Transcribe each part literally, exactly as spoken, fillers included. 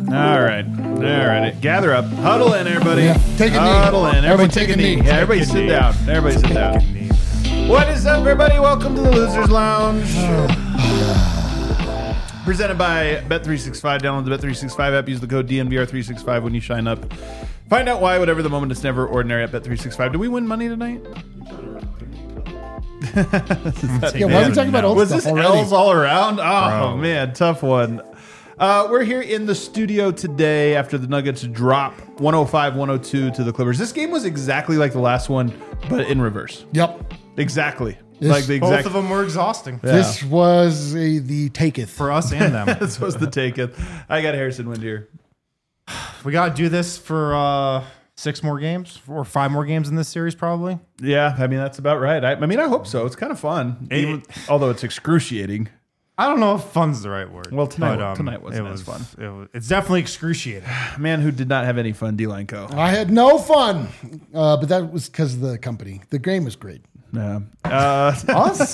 All right. All right. Gather up. Huddle in, everybody. Yeah. Take a knee. Huddle in. Everybody, Everybody take, take a a knee. knee. Yeah, everybody Take a sit knee. down. Everybody sit down. What is up, everybody? Welcome to the Losers Lounge. Presented by Bet three sixty-five. Download the Bet three sixty-five app. Use the code D N V R three sixty-five when you sign up. Find out why, whatever the moment, it's never ordinary at Bet three sixty-five. Do we win money tonight? Yeah, why are we talking about old Was stuff this already? L's all around? Oh, Bro. man, tough one. Uh, we're here in the studio today after the Nuggets drop one oh five one oh two to the Clippers. This game was exactly like the last one, but in reverse. Yep. Exactly. This- like the Both exact. of them were exhausting Yeah. This was a, the taketh. for us and them. This was the take it. I got Harrison Wind here. We got to do this for uh, six more games or five more games in this series, probably. Yeah, I mean, that's about right. I, I mean, I hope so. It's kind of fun, It- even, although it's excruciating. I don't know if fun's the right word. Well, tonight- but, tonight wasn't it as fun. It was, it's definitely excruciating. Man who did not have any fun, D-Line Co. I had no fun, uh, but that was because of the company. The game was great. Yeah. Uh, Us?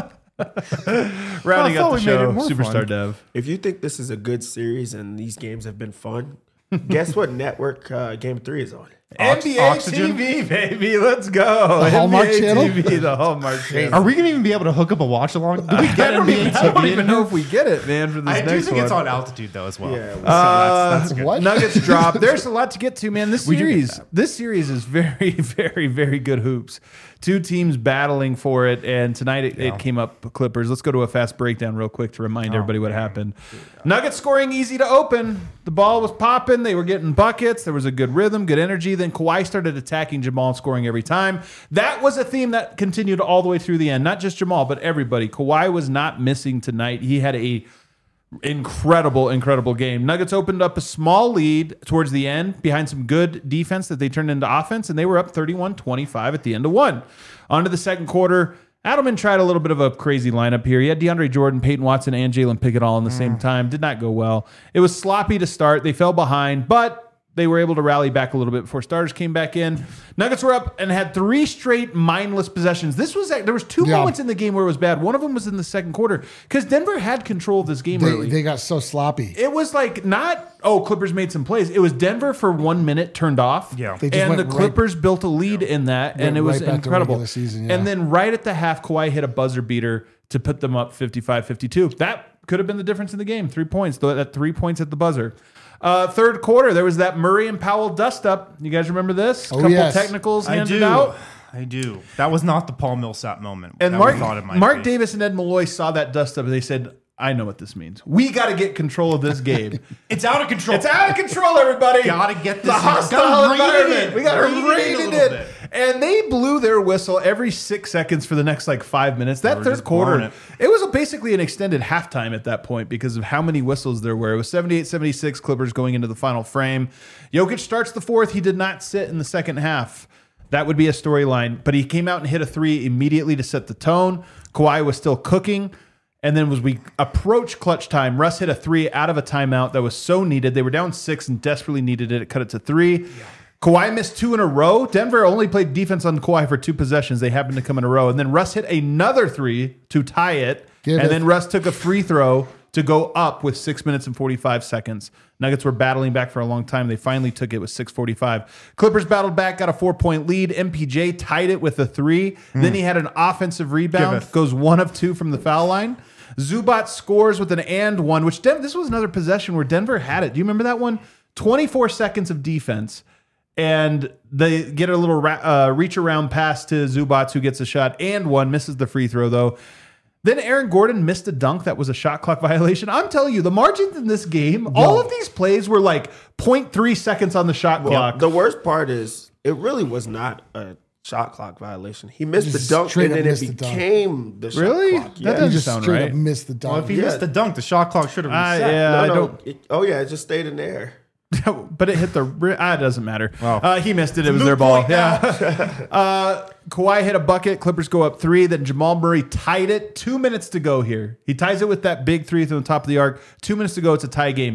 rounding I out thought the we made show, it more Superstar fun. Dev. If you think this is a good series and these games have been fun, guess what network uh, Game Three is on? N B A Oxygen? T V, baby, let's go. The Hallmark N B A channel? T V, the Hallmark channel. Are we going to even be able to hook up a watch along? Do we I get don't, N B A even, I T don't V? even know if we get it, man, for this I do next think one. it's on altitude, though, as well. Yeah, So we- Uh, that's, that's good. What? Nuggets drop. There's a lot to get to, man. This We do get series, that. this series is very, very, very good hoops. Two teams battling for it, and tonight it, Yeah. it came up Clippers. Let's go to a fast breakdown real quick to remind Oh, everybody what man. happened. Nuggets scoring easy to open. The ball was popping. They were getting buckets. There was a good rhythm, good energy. Then Kawhi started attacking Jamal and scoring every time. That was a theme that continued all the way through the end. Not just Jamal, but everybody. Kawhi was not missing tonight. He had a incredible, incredible game. Nuggets opened up a small lead towards the end behind some good defense that they turned into offense, and they were up thirty-one twenty-five at the end of one. On to the second quarter. Adelman tried a little bit of a crazy lineup here. He had DeAndre Jordan, Peyton Watson, and Jalen Pickett all in the same time. Did not go well. It was sloppy to start. They fell behind, but they were able to rally back a little bit before starters came back in. Nuggets were up and had three straight mindless possessions. This was there was two Yeah. moments in the game where it was bad. One of them was in the second quarter because Denver had control of this game They, early. they got so sloppy. It was like not, oh, Clippers made some plays. It was Denver for one minute turned off. Yeah. They just and the went right- Clippers built a lead in that, and Went it was right back to incredible. regular season, yeah. And then right at the half, Kawhi hit a buzzer beater to put them up fifty-five fifty-two. That could have been the difference in the game. Three points. Th- That three points at the buzzer. Uh, third quarter, there was that Murray and Powell dust up. You guys remember this? Oh, Couple yes. technicals I handed do. out. I do. That was not the Paul Millsap moment. And that Mark, we thought it might Mark be. Davis and Ed Malloy saw that dust up and they said, I know what this means. We got to get control of this game. It's out of control. It's out of control, everybody. Gotta get the this- hostile gotta rein it environment. in. We got to Rein it in rein a it little in. bit. And they blew their whistle every six seconds for the next like five minutes. That were third just blowing quarter, it. it. was basically an extended halftime at that point because of how many whistles there were. It was seventy-eight seventy-six Clippers going into the final frame. Jokic starts the fourth. He did not sit in the second half. That would be a storyline. But he came out and hit a three immediately to set the tone. Kawhi was still cooking. And then as we approach clutch time, Russ hit a three out of a timeout that was so needed. They were down six and desperately needed it. It cut it to three. Kawhi missed two in a row. Denver only played defense on Kawhi for two possessions. They happened to come in a row. And then Russ hit another three to tie it. Give and it. then Russ took a free throw to go up with six minutes and forty-five seconds. Nuggets were battling back for a long time. They finally took it with six forty-five. Clippers battled back, got a four-point lead. M P J tied it with a three. Then he had an offensive rebound. Giveth. Goes one of two from the foul line. Zubac scores with an and one, which Den- this was another possession where Denver had it. Do you remember that one? twenty-four seconds of defense. And they get a little ra- uh, reach around pass to Zubac, who gets a shot and one, misses the free throw, though. Then Aaron Gordon missed a dunk that was a shot clock violation. I'm telling you, the margins in this game, all of these plays were like zero point three seconds on the shot Well, clock. the worst part is it really was not a shot clock violation. He missed Just the dunk, straight and up then it missed the dunk. became the shot Really? clock. That Yeah. doesn't He just sound straight right. up missed the dunk. Well, if he Yeah. missed the dunk, the shot clock should have I- reset. yeah, I no, no. don't. It- oh yeah, it just stayed in there. But it hit the ri- ah, it doesn't matter. Wow. Uh, he missed it. It was moot their ball. point Yeah. uh, Kawhi hit a bucket. Clippers go up three. Then Jamal Murray tied it. Two minutes to go here. He ties it with that big three from the top of the arc. Two minutes to go. It's a tie game.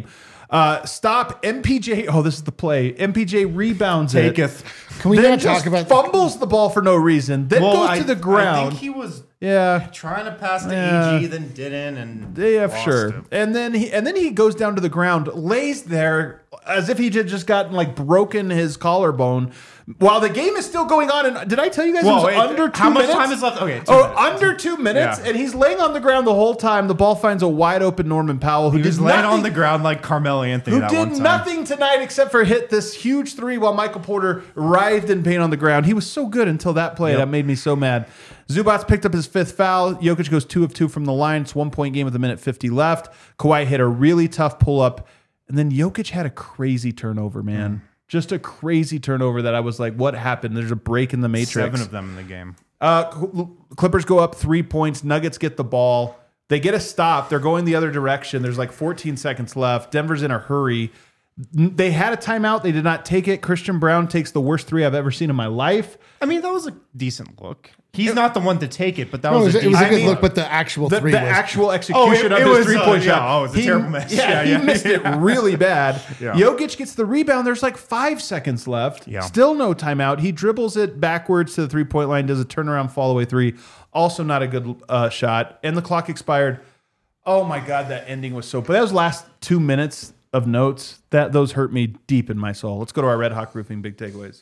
Uh, stop M P J. Oh, this is the play. M P J rebounds it. Taketh. Can we then not just talk about fumbles the ball for no reason. Then Well, goes I, to the I ground. think he was yeah. trying to pass to Yeah. E G, then didn't, and Yeah, lost sure. it. And then he and then he goes down to the ground, lays there as if he had just gotten like broken his collarbone while the game is still going on. And did I tell you guys Whoa, it was wait, under two how much minutes? time is left? Okay, two oh, minutes. under two minutes, Yeah. and he's laying on the ground the whole time. The ball finds a wide open Norman Powell who He did was laying nothing, on the ground like Carmelo Anthony who that did one time. nothing tonight except for hit this huge three while Michael Porter writhed in pain on the ground. He was so good until that play. Yep. That made me so mad. Zubats picked up his fifth foul. Jokic goes two of two from the line. It's one point game with a minute fifty left. Kawhi hit a really tough pull up. And then Jokic had a crazy turnover, man. Mm. Just a crazy turnover that I was like, what happened? There's a break in the matrix. Seven of them in the game. Uh, Cl- Clippers go up three points. Nuggets get the ball. They get a stop. They're going the other direction. There's like fourteen seconds left. Denver's in a hurry. N- They had a timeout. They did not take it. Christian Brown takes the worst three I've ever seen in my life. I mean, that was a decent look. He's not the one to take it, but that No, it was, was, a it was a decent good look. look, but the actual The, three the was actual execution Oh, it- of it his was, three-point uh, shot. yeah, oh, it was a He- terrible miss. Yeah, Yeah, he yeah. missed it really bad. Yeah. Jokic gets the rebound. There's like five seconds left. Yeah. Still no timeout. He dribbles it backwards to the three-point line, does a turnaround fall-away three. Also not a good uh, shot. And the clock expired. Oh, my God, that ending was so... But those last two minutes of notes, that those hurt me deep in my soul. Let's go to our Red Hawk Roofing big takeaways.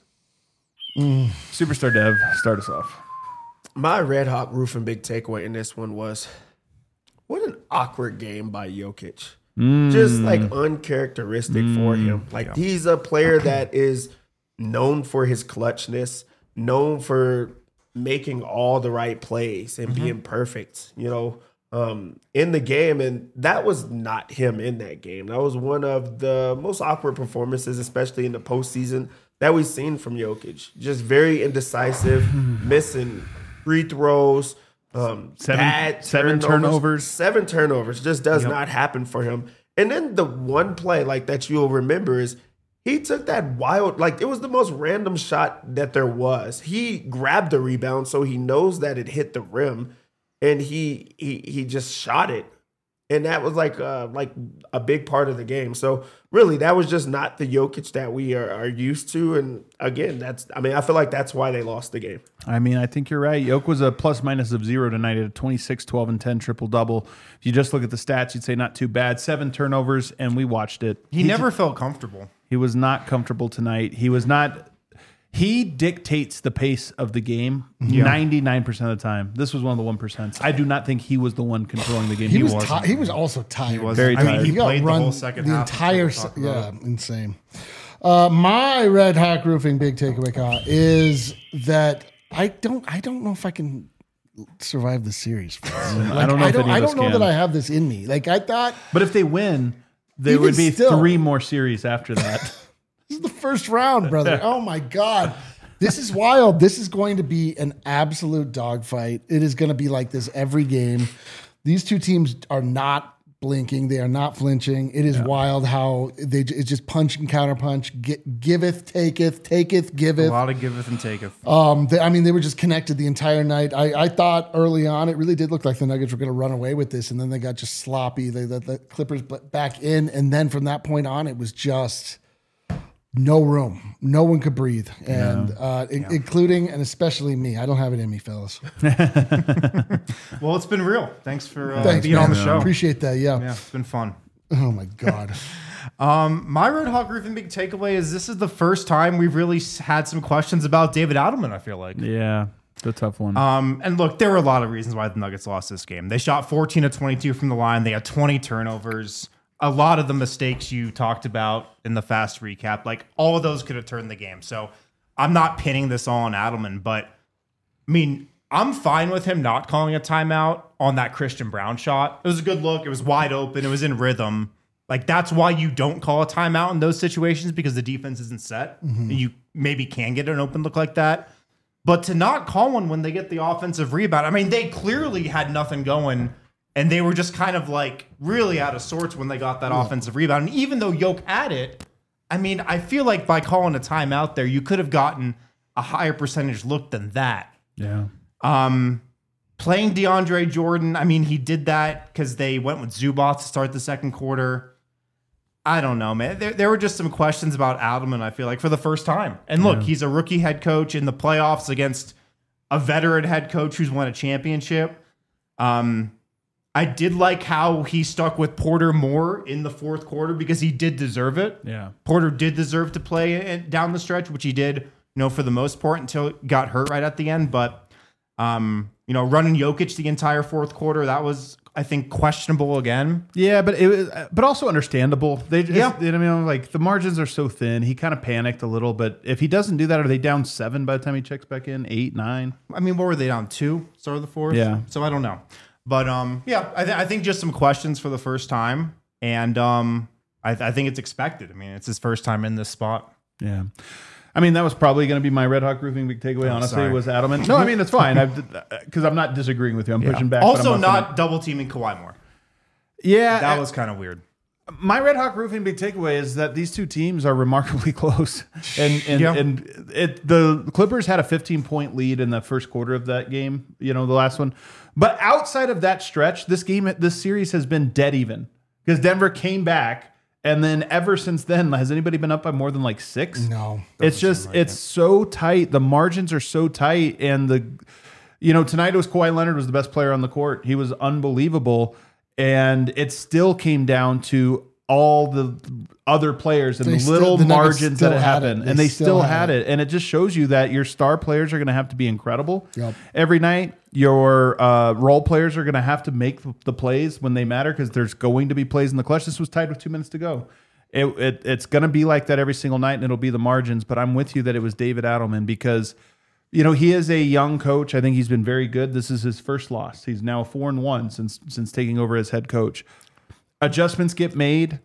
Mm. Superstar Dev, start us off. My Red Hawk Roofing big takeaway in this one was what an awkward game by Jokic. Just like uncharacteristic for him. Like he's a player that is known for his clutchness, known for making all the right plays and being perfect, you know, um, in the game. And that was not him in that game. That was one of the most awkward performances, especially in the postseason, that we've seen from Jokic. Just very indecisive, missing free throws, um, Seven- bad seven turnovers. Seven turnovers just does not happen for him. And then the one play like that you'll remember is he took that wild, like it was the most random shot that there was. He grabbed the rebound, so he knows that it hit the rim, and he he he just shot it. And that was like uh, like a big part of the game. So really, that was just not the Jokic that we are, are used to. And again, that's I mean, I feel like that's why they lost the game. I mean, I think you're right. Yoke was a plus minus of zero tonight at a twenty-six, twelve, and ten triple double. If you just look at the stats, you'd say not too bad. Seven turnovers, and we watched it. He, never felt comfortable. He was not comfortable tonight. He was not. He dictates the pace of the game ninety-nine percent of the time. This was one of the one percent. I do not think he was the one controlling the game. He, He, was. wasn't. Ti- he was also tired. was Very I mean, tired. he He got played the run whole second the half. entire. We'll se- talk about Yeah, it. insane. Uh, my Red Hawk Roofing big takeaway Kyle, is that I don't. I don't know if I can survive the series. Like, I don't know I if don't, any I of us don't know can. that I have this in me. Like I thought. But if they win, there Even would be still. three more series after that. This is the first round, brother. Oh my God. This is wild. This is going to be an absolute dogfight. It is going to be like this every game. These two teams are not blinking. They are not flinching. It is wild how they it's just punch and counter punch. Gi- giveth, taketh, taketh, A giveth. lot of giveth and taketh. Um, they, I mean, they were just connected the entire night. I, I thought early on, it really did look like the Nuggets were going to run away with this, and then they got just sloppy. They let the Clippers b- back in, and then from that point on, it was just no room. No one could breathe, and uh, in- including and especially me. I don't have it in me, fellas. Well, it's been real. Thanks for uh, Thanks, being man. on the show. Appreciate that. Yeah. Yeah, it's been fun. Oh my God. Um, my Red Hawk Roofing big takeaway is this is the first time we've really s- had some questions about David Adelman, I feel like. Yeah, the tough one. Um, and look, there were a lot of reasons why the Nuggets lost this game. They shot fourteen of twenty-two from the line. They had twenty turnovers. A lot of the mistakes you talked about in the fast recap, like all of those could have turned the game. So I'm not pinning this all on Adelman, but I mean, I'm fine with him not calling a timeout on that Christian Brown shot. It was a good look. It was wide open. It was in rhythm. Like that's why you don't call a timeout in those situations, because the defense isn't set. And you maybe can get an open look like that. But to not call one when they get the offensive rebound, I mean, they clearly had nothing going, and they were just kind of like really out of sorts when they got that offensive rebound. And even though Yoke had it, I mean, I feel like by calling a timeout there, you could have gotten a higher percentage look than that. yeah. Um, playing DeAndre Jordan, I mean, he did that because they went with Zubac to start the second quarter. I don't know, man. There, there were just some questions about Adelman, I feel like, for the first time. And look, yeah. he's a rookie head coach in the playoffs against a veteran head coach who's won a championship. Um, I did like how he stuck with Porter more in the fourth quarter because he did deserve it. Yeah. Porter did deserve to play down the stretch, which he did, you know, for the most part until it got hurt right at the end. But, um, you know, running Jokic the entire fourth quarter, that was, I think, questionable again. Yeah, but it was, but also understandable. They just, yeah. you know, I mean, like the margins are so thin. He kind of panicked a little, but if he doesn't do that, are they down seven by the time he checks back in? Eight, nine? I mean, what were they down? Two? Start of the fourth? Yeah. So I don't know. But um, yeah, I, th- I think just some questions for the first time. And um, I, th- I think it's expected. I mean, it's his first time in this spot. Yeah. I mean, that was probably going to be my Red Hawk Roofing big takeaway, Oh, honestly, sorry. was Adelman. No, I mean, it's fine. Because I'm not disagreeing with you. I'm Yeah. pushing back. but Also, I'm not double teaming Kawhi more. Yeah. That was kind of weird. My Red Hawk Roofing big takeaway is that these two teams are remarkably close, and and, Yeah. and it the Clippers had a fifteen point lead in the first quarter of that game, you know, the last one. But outside of that stretch, this game, this series has been dead even because Denver came back, and then ever since then, has anybody been up by more than like six? No, it's just like it's it. so tight. The margins are so tight, and the you know tonight it was Kawhi Leonard was the best player on the court. He was unbelievable. And it still came down to all the other players and They the still- little the Nuggets margins still that had happened. it. They And they still still had had it. And it just shows you that your star players are going to have to be incredible Yep. every night. Your uh, role players are going to have to make the plays when they matter because there's going to be plays in the clutch. This was tied with two minutes to go. It, it, it's going to be like that every single night, and it'll be the margins. But I'm with you that it was David Adelman because – you know, he is a young coach. I think he's been very good. This is his first loss. He's now four and one since since taking over as head coach. Adjustments get made.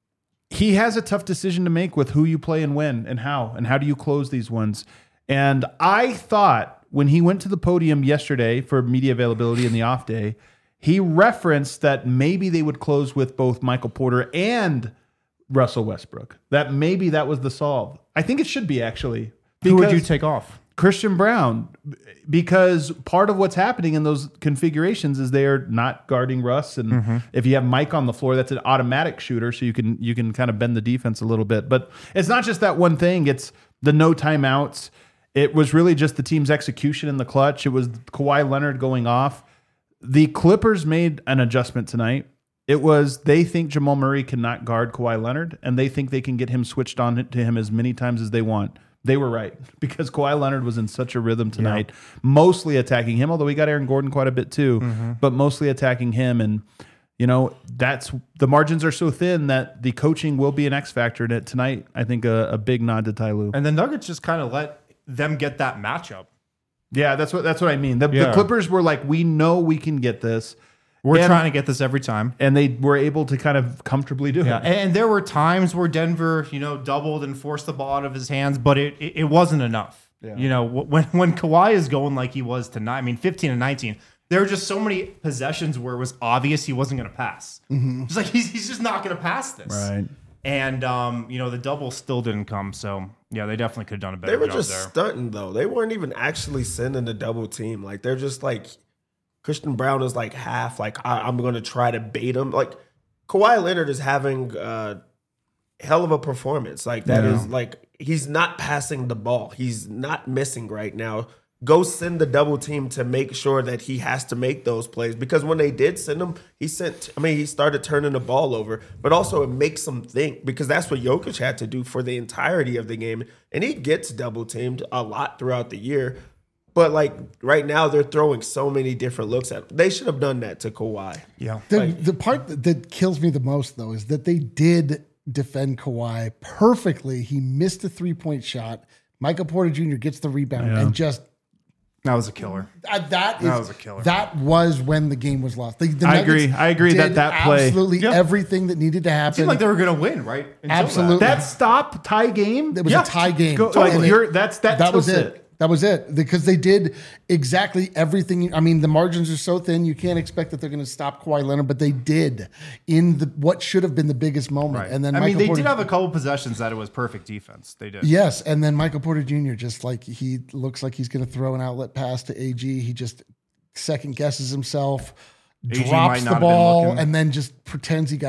He has a tough decision to make with who you play and when and how and how do you close these ones. And I thought when he went to the podium yesterday for media availability in the off day, he referenced that maybe they would close with both Michael Porter and Russell Westbrook. That maybe that was the solve. I think it should be actually. Who would you Because- take off? Christian Brown, because part of what's happening in those configurations is they are not guarding Russ, and Mm-hmm. if you have Mike on the floor, that's an automatic shooter, so you can you can kind of bend the defense a little bit. But it's not just that one thing; it's the no timeouts. It was really just the team's execution in the clutch. It was Kawhi Leonard going off. The Clippers made an adjustment tonight. It was they think Jamal Murray cannot guard Kawhi Leonard, and they think they can get him switched on to him as many times as they want. They were right because Kawhi Leonard was in such a rhythm tonight, yeah. mostly attacking him, although we got Aaron Gordon quite a bit too, mm-hmm. but mostly attacking him. And, you know, that's the margins are so thin that the coaching will be an X factor in it tonight. I think a, a big nod to Ty Lue. And the Nuggets just kind of let them get that matchup. Yeah, that's what that's what I mean. The, yeah. the Clippers were like, we know we can get this. We're and, trying to get this every time. And they were able to kind of comfortably do yeah. it. And there were times where Denver, you know, doubled and forced the ball out of his hands, but it it, it wasn't enough. Yeah. You know, when when Kawhi is going like he was tonight, I mean, fifteen and nineteen, there were just so many possessions where it was obvious he wasn't going to pass. Mm-hmm. It's like, he's, he's just not going to pass this. Right. And, um, you know, the double still didn't come. So, yeah, they definitely could have done a better job there. They were job just there. stunting, though. They weren't even actually sending the double team. Like, they're just like... Christian Brown is like half like I, I'm going to try to bait him. Like Kawhi Leonard is having a hell of a performance. Like that yeah. is like he's not passing the ball. He's not missing right now. Go send the double team to make sure that he has to make those plays because when they did send him, he sent. I mean, he started turning the ball over, but also it makes him think because that's what Jokic had to do for the entirety of the game, and he gets double teamed a lot throughout the year. But, like, right now, they're throwing so many different looks at him. They should have done that to Kawhi. Yeah. The, like, the part that, that kills me the most, though, is that they did defend Kawhi perfectly. He missed a three-point shot. Michael Porter Junior gets the rebound yeah. and just... That was a killer. Uh, that, is, that was a killer. That was when the game was lost. The, the I agree. I agree that that play... Absolutely yeah. everything that needed to happen. It seemed like they were going to win, right? Until Absolutely. That. That stop tie game? It was yeah. a tie game. Go, like you're, that's, that, that was it. it. That was it because they did exactly everything. I mean, the margins are so thin, you can't expect that they're going to stop Kawhi Leonard, but they did in the what should have been the biggest moment. Right. And then I Michael mean, they Porter, did have a couple possessions that it was perfect defense. They did. Yes, and then Michael Porter Junior just like he looks like he's going to throw an outlet pass to A G. He just second guesses himself, A G drops might not the have been ball, looking. and then just pretends he got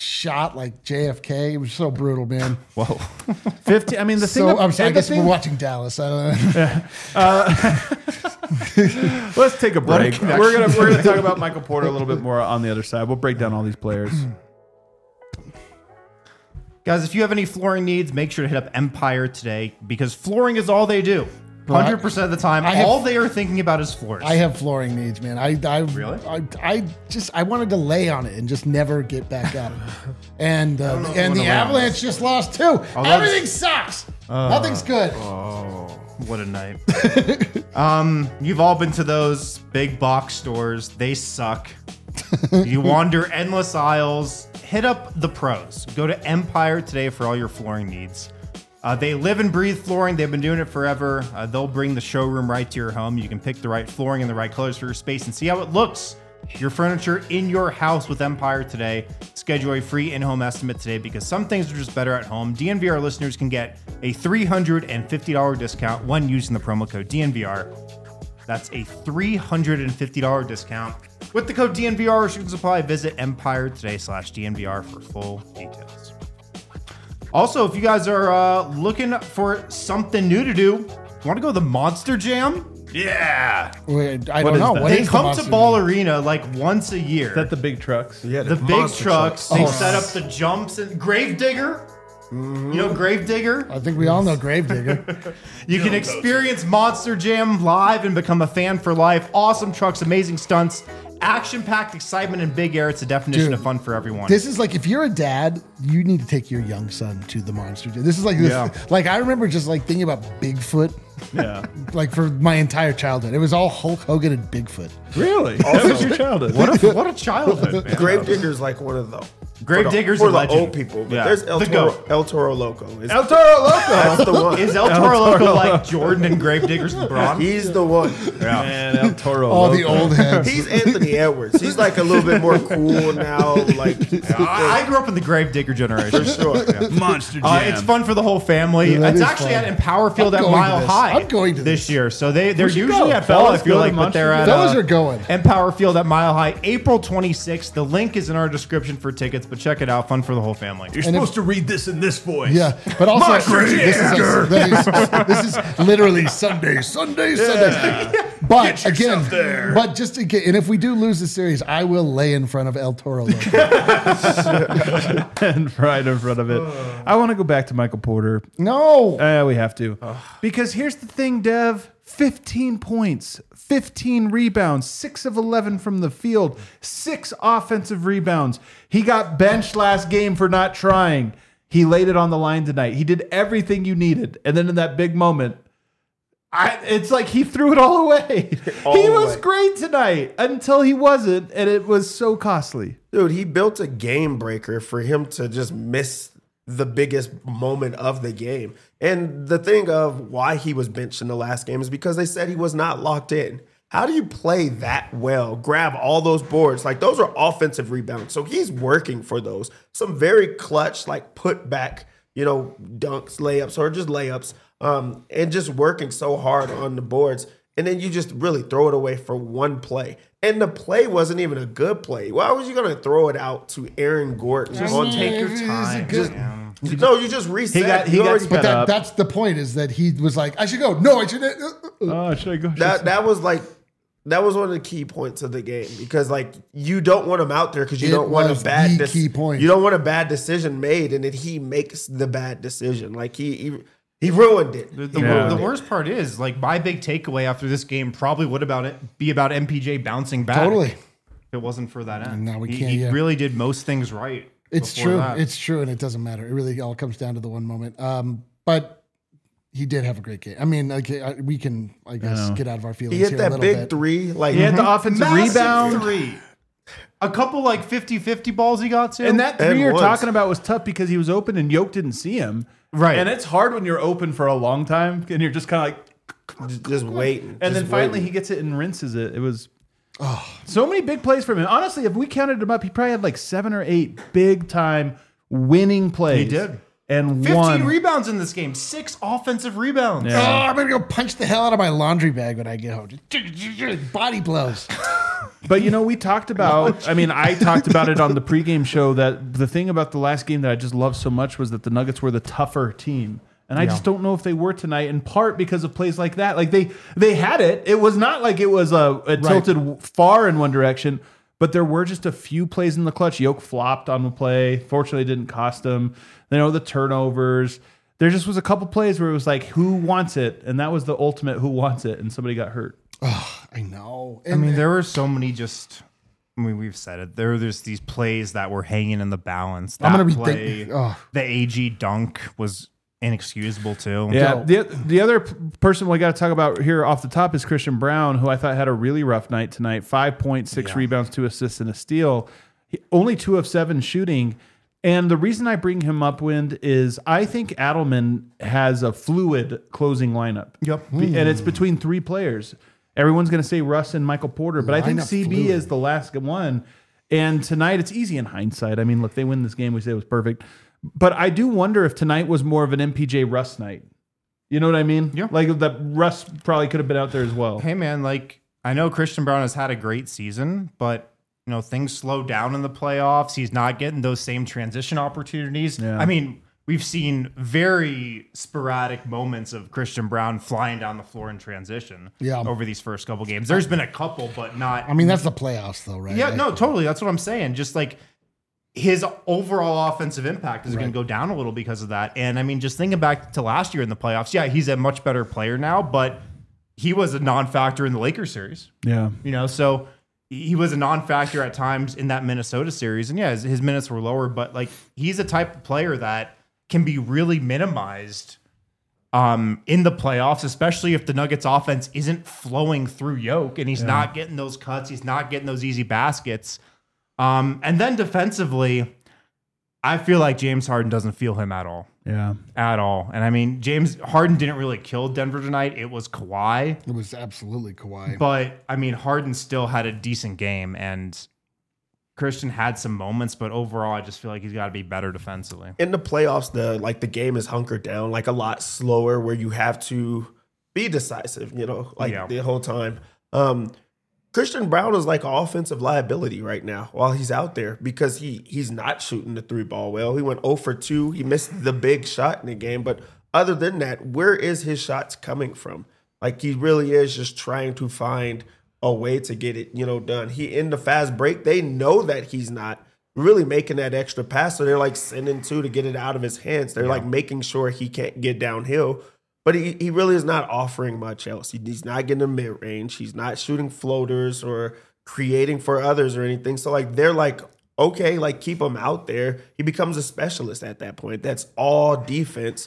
shot like J F K. It was so brutal, man. Whoa. fifteen. I mean, the thing. So of- I'm sorry, I and the guess thing- we're watching Dallas. I don't know. Let's take a What a break. connection. We're gonna we're gonna talk about Michael Porter a little bit more on the other side. We'll break down all these players. Guys, if you have any flooring needs, make sure to hit up Empire today because flooring is all they do. one hundred percent of the time, I have- all they are thinking about is floors. I have flooring needs, man. I, I Really? I, I just I wanted to lay on it and just never get back up. And uh, and the lay on Avalanche just lost too. Everything sucks. Uh, Nothing's good. Oh, what a night. um, you've all been to those big box stores. They suck. You wander endless aisles. Hit up the pros. Go to Empire today for all your flooring needs. Uh, they live and breathe flooring. They've been doing it forever. Uh, they'll bring the showroom right to your home. You can pick the right flooring and the right colors for your space and see how it looks. Your furniture in your house with Empire today. Schedule a free in-home estimate today because some things are just better at home. D N V R listeners can get a three hundred fifty dollars discount when using the promo code D N V R. That's a three hundred fifty dollars discount. With the code D N V R, restrictions apply. Visit Empire today slash D N V R for full details. Also, if you guys are uh, looking for something new to do, want to go to the Monster Jam? Yeah. Wait, I What don't is know. that? What They is the come to Monster Ball Jam? Arena like once a year. Is that the big trucks? Yeah, the big monster trucks. They Oh. set up the jumps and Gravedigger. You know Gravedigger? I think we all know Gravedigger. You can experience Monster Jam live and become a fan for life. Awesome trucks, amazing stunts, action-packed excitement and big air. It's a definition Dude, of fun for everyone. This is like if you're a dad, you need to take your young son to the Monster Jam. This is like this, Yeah. like I remember just like thinking about Bigfoot, Yeah. like for my entire childhood. It was all Hulk Hogan and Bigfoot. Really? That was your childhood. what a what a childhood, man. Gravedigger's like one of the Gravedigger's for a the legend. old people. But Yeah. there's El The Toro, goat. El Toro Loco. Is, El Toro Loco. that's the one. Is El Toro Loco like Jordan and Gravedigger's LeBron? He's the one. Man, El Toro All Loco. the old heads. He's Anthony Edwards. He's like a little bit more cool now. Like I, I grew up in the Gravedigger generation. for sure. Yeah. Monster Jam. Uh, it's fun for the whole family. Yeah, that it's is actually fun. at Empower Field I'm at going to Mile this. High. I'm going to this year. So they they're should usually go. at Bell, I Fellas, feel go to like, but they're Monster at Jam. Fellas uh, are going. Empower Field at Mile High, April twenty-sixth. The link is in our description for tickets, but check it out. Fun for the whole family. You're supposed to read this in this voice. Yeah, but also Monster this is, Jam. this is this is literally Sunday, Sunday, Sunday. But Get yourself again, there. but just again, and if we do lose the series, I will lay in front of El Toro Loco. And right in front of it. I want to go back to Michael Porter. No, Uh, we have to. Because here's the thing, Dev. fifteen points, fifteen rebounds, six of eleven from the field, six offensive rebounds. He got benched last game for not trying. He laid it on the line tonight. He did everything you needed. And then in that big moment, I, it's like he threw it all away. All he the was way. great tonight until he wasn't, and it was so costly. Dude, he built a game breaker for him to just miss the biggest moment of the game. And the thing of why he was benched in the last game is because they said he was not locked in. How do you play that well, grab all those boards? Like, those are offensive rebounds. So he's working for those. Some very clutch, like, put back, you know, dunks, layups, or just layups, um, and just working so hard on the boards. And then you just really throw it away for one play. And the play wasn't even a good play. Why was you going to throw it out to Aaron Gordon? Just on take your It's a time. good- Yeah. No, you just reset. He got- he You got already- sped but that, up. that's the point. Is that he was like, I should go. No, I should. Oh, should I go? that that was like that was one of the key points of the game because like you don't want him out there because you It don't want was a bad the key point. You don't want a bad decision made, and then he makes the bad decision. Like he he, he ruined it. The, the, He Yeah. ruined the it. worst part is, like, my big takeaway after this game probably would about it be about M P J bouncing back. Totally. If it wasn't for that end. No, we he, can't, He yeah. really did most things right. It's before true. that. It's true, and it doesn't matter. It really all comes down to the one moment. Um, but he did have a great game. I mean, like I, we can, I guess, know. get out of our feelings He hit here a that little big bit. three. Like He had the offensive Massive rebound. three. A couple like fifty-fifty balls he got to. And that three And you're once. talking about was tough because he was open and Yoke didn't see him. Right. And it's hard when you're open for a long time and you're just kind of like, just, just waiting. and then just finally waiting. he gets it and rinses it. It was so many big plays from him. Honestly, if we counted him up, he probably had like seven or eight big time winning plays. He did. And fifteen one. rebounds in this game. Six offensive rebounds. Yeah. Oh, I'm gonna go punch the hell out of my laundry bag when I get home. Just body blows. But, you know, we talked about, I mean, I talked about it on the pregame show that the thing about the last game that I just loved so much was that the Nuggets were the tougher team. And I Yeah. just don't know if they were tonight, in part because of plays like that. Like, they they had it. It was not like it was a, it tilted far in one direction, but there were just a few plays in the clutch. Yoke flopped on the play. Fortunately, it didn't cost him. You know, the turnovers. There just was a couple plays where it was like, who wants it? And that was the ultimate who wants it, and somebody got hurt. Oh, I know. I And mean, there were so many just. I mean, we've said it. There were just these plays that were hanging in the balance. That I'm gonna be play, think- oh. the A G dunk was inexcusable too. Yeah. Go. The, the other p- person we got to talk about here off the top is Christian Brown, who I thought had a really rough night tonight. Five points, six Yeah. rebounds, two assists, and a steal. He, only two of seven shooting. And the reason I bring him up, Wind, is I think Adelman has a fluid closing lineup. Yep. Be- And it's between three players. Everyone's going to say Russ and Michael Porter, but I think Lineup C B fluid. is the last one. And tonight, it's easy in hindsight. I mean, look, they win this game. We say it was perfect. But I do wonder if tonight was more of an M P J Russ night. You know what I mean? Yeah. Like that Russ probably could have been out there as well. Hey man, like I know Christian Brown has had a great season, but you know things slow down in the playoffs. He's not getting those same transition opportunities. Yeah. I mean, we've seen very sporadic moments of Christian Brown flying down the floor in transition Yeah. over these first couple games. There's been a couple, but not. I mean, that's the playoffs, though, right? yeah, Like, no, totally. That's what I'm saying. Just like his overall offensive impact is going to go down a little because of that. And I mean, just thinking back to last year in the playoffs, yeah, he's a much better player now, but he was a non-factor in the Lakers series. Yeah. You know, so he was a non-factor at times in that Minnesota series. And yeah, his, his minutes were lower, but like he's a type of player that can be really minimized um, in the playoffs, especially if the Nuggets offense isn't flowing through Yoke and he's not getting those cuts. He's not getting those easy baskets. Um, and then defensively, I feel like James Harden doesn't feel him at all. Yeah. At all. And I mean, James Harden didn't really kill Denver tonight. It was Kawhi. It was absolutely Kawhi. But I mean, Harden still had a decent game, and Christian had some moments, but overall, I just feel like he's got to be better defensively. In the playoffs, the like the game is hunkered down like a lot slower, where you have to be decisive. You know, like Yeah. the whole time. Um, Christian Brown is like an offensive liability right now while he's out there because he he's not shooting the three ball well. He went zero for two. He missed the big shot in the game, but other than that, where is his shots coming from? Like he really is just trying to find a way to get it, you know, done. He in the fast break, they know that he's not really making that extra pass, so they're like sending two to get it out of his hands. They're like making sure he can't get downhill. But he, he really is not offering much else. He, he's not getting a mid range. He's not shooting floaters or creating for others or anything. So like they're like, okay, like keep him out there. He becomes a specialist at that point. That's all defense.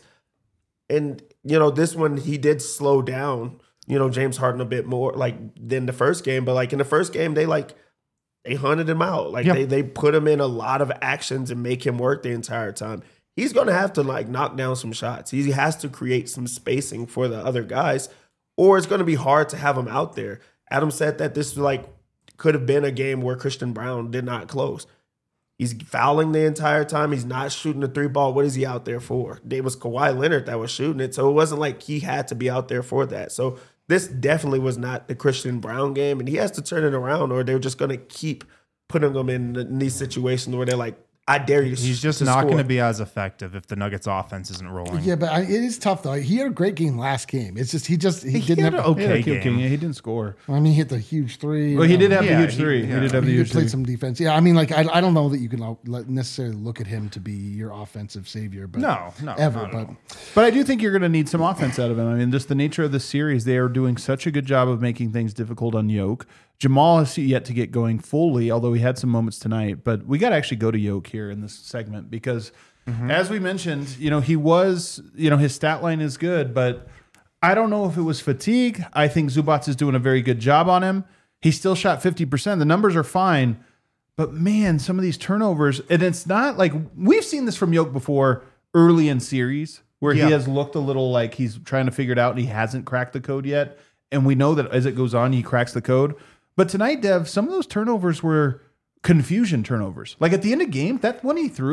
And you know, this one he did slow down, you know, James Harden a bit more like than the first game. But like in the first game, they like they hunted him out. Like Yep. they they put him in a lot of actions and make him work the entire time. He's going to have to like knock down some shots. He has to create some spacing for the other guys, or it's going to be hard to have him out there. Adam said that this like could have been a game where Christian Brown did not close. He's fouling the entire time. He's not shooting the three ball. What is he out there for? It was Kawhi Leonard that was shooting it, so it wasn't like he had to be out there for that. So this definitely was not the Christian Brown game, and he has to turn it around, or they're just going to keep putting him in, in these situations where they're like, I dare you. He's just to not score. going to be as effective if the Nuggets offense isn't rolling. Yeah, but I, it is tough though. He had a great game last game. It's just he just he, He didn't had have. an He had a okay cute game. Yeah, he didn't score. I mean, he hit the huge three. Well, he Um, did have Yeah, the huge he- three. yeah. He did have the He huge did play three. some defense. Yeah, I mean, like I, I don't know that you can uh, let- necessarily look at him to be your offensive savior, but No, no, ever. not at But all. But I do think you're going to need some offense out of him. I mean, just the nature of the series, they are doing such a good job of making things difficult on Yoke. Jamal has yet to get going fully, although he had some moments tonight. But we got to actually go to Yoke here in this segment because, as we mentioned, you know, he was, you know, his stat line is good, but I don't know if it was fatigue. I think Zubats is doing a very good job on him. He still shot fifty percent. The numbers are fine. But man, some of these turnovers, and it's not like we've seen this from Yoke before early in series where Yeah. he has looked a little like he's trying to figure it out and he hasn't cracked the code yet. And we know that as it goes on, he cracks the code. But tonight, Dev, some of those turnovers were confusion turnovers. Like at the end of the game, that one he threw,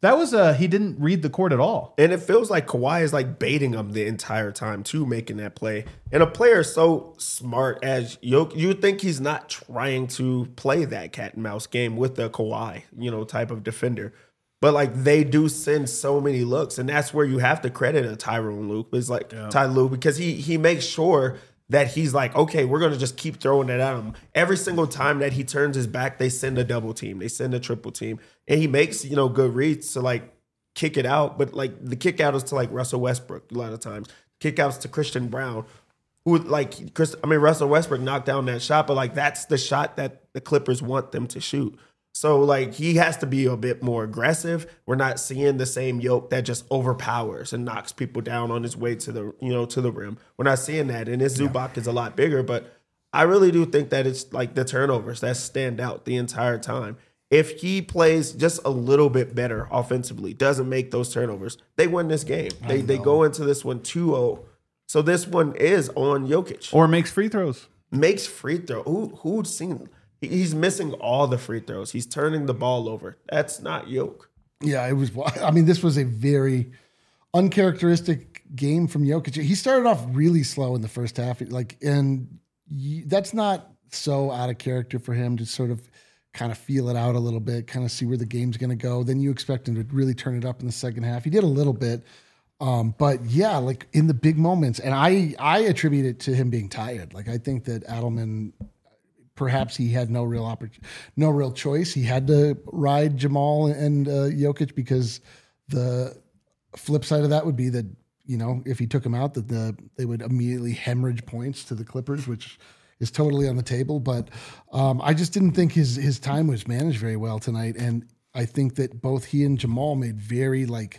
That was a he didn't read the court at all. And it feels like Kawhi is like baiting him the entire time too, making that play. And a player so smart as Jokic, you would think he's not trying to play that cat and mouse game with the Kawhi, you know, type of defender. But like they do send so many looks, and that's where you have to credit a Tyronn Lue. It's like yeah. Ty Lue because he he makes sure that he's like, okay, we're gonna just keep throwing it at him. Every single time that he turns his back, they send a double team, they send a triple team, and he makes you know good reads to like kick it out. But like the kick out is to like Russell Westbrook a lot of times. Kick outs to Christian Brown, who like Chris. I mean Russell Westbrook knocked down that shot, but like that's the shot that the Clippers want them to shoot. So, like, he has to be a bit more aggressive. We're not seeing the same Yoke that just overpowers and knocks people down on his way to the, you know, to the rim. We're not seeing that. And his Zubac is a lot bigger, but I really do think that it's, like, the turnovers that stand out the entire time. If he plays just a little bit better offensively, doesn't make those turnovers, they win this game. They they go into this one two oh. So this one is on Jokic. Or makes free throws. Makes free throw. Who, who'd seen He's missing all the free throws. He's turning the ball over. That's not Yoke. Yeah, it was. I mean, this was a very uncharacteristic game from Jokic. He started off really slow in the first half, like, and that's not so out of character for him to sort of kind of feel it out a little bit, kind of see where the game's going to go. Then you expect him to really turn it up in the second half. He did a little bit, um, but yeah, like in the big moments, and I I attribute it to him being tired. Like I think that Adelman. Perhaps he had no real opportunity, no real choice. He had to ride Jamal and uh, Jokic because the flip side of that would be that, you know, if he took him out, that the they would immediately hemorrhage points to the Clippers, which is totally on the table. But um, I just didn't think his his time was managed very well tonight, and I think that both he and Jamal made very like.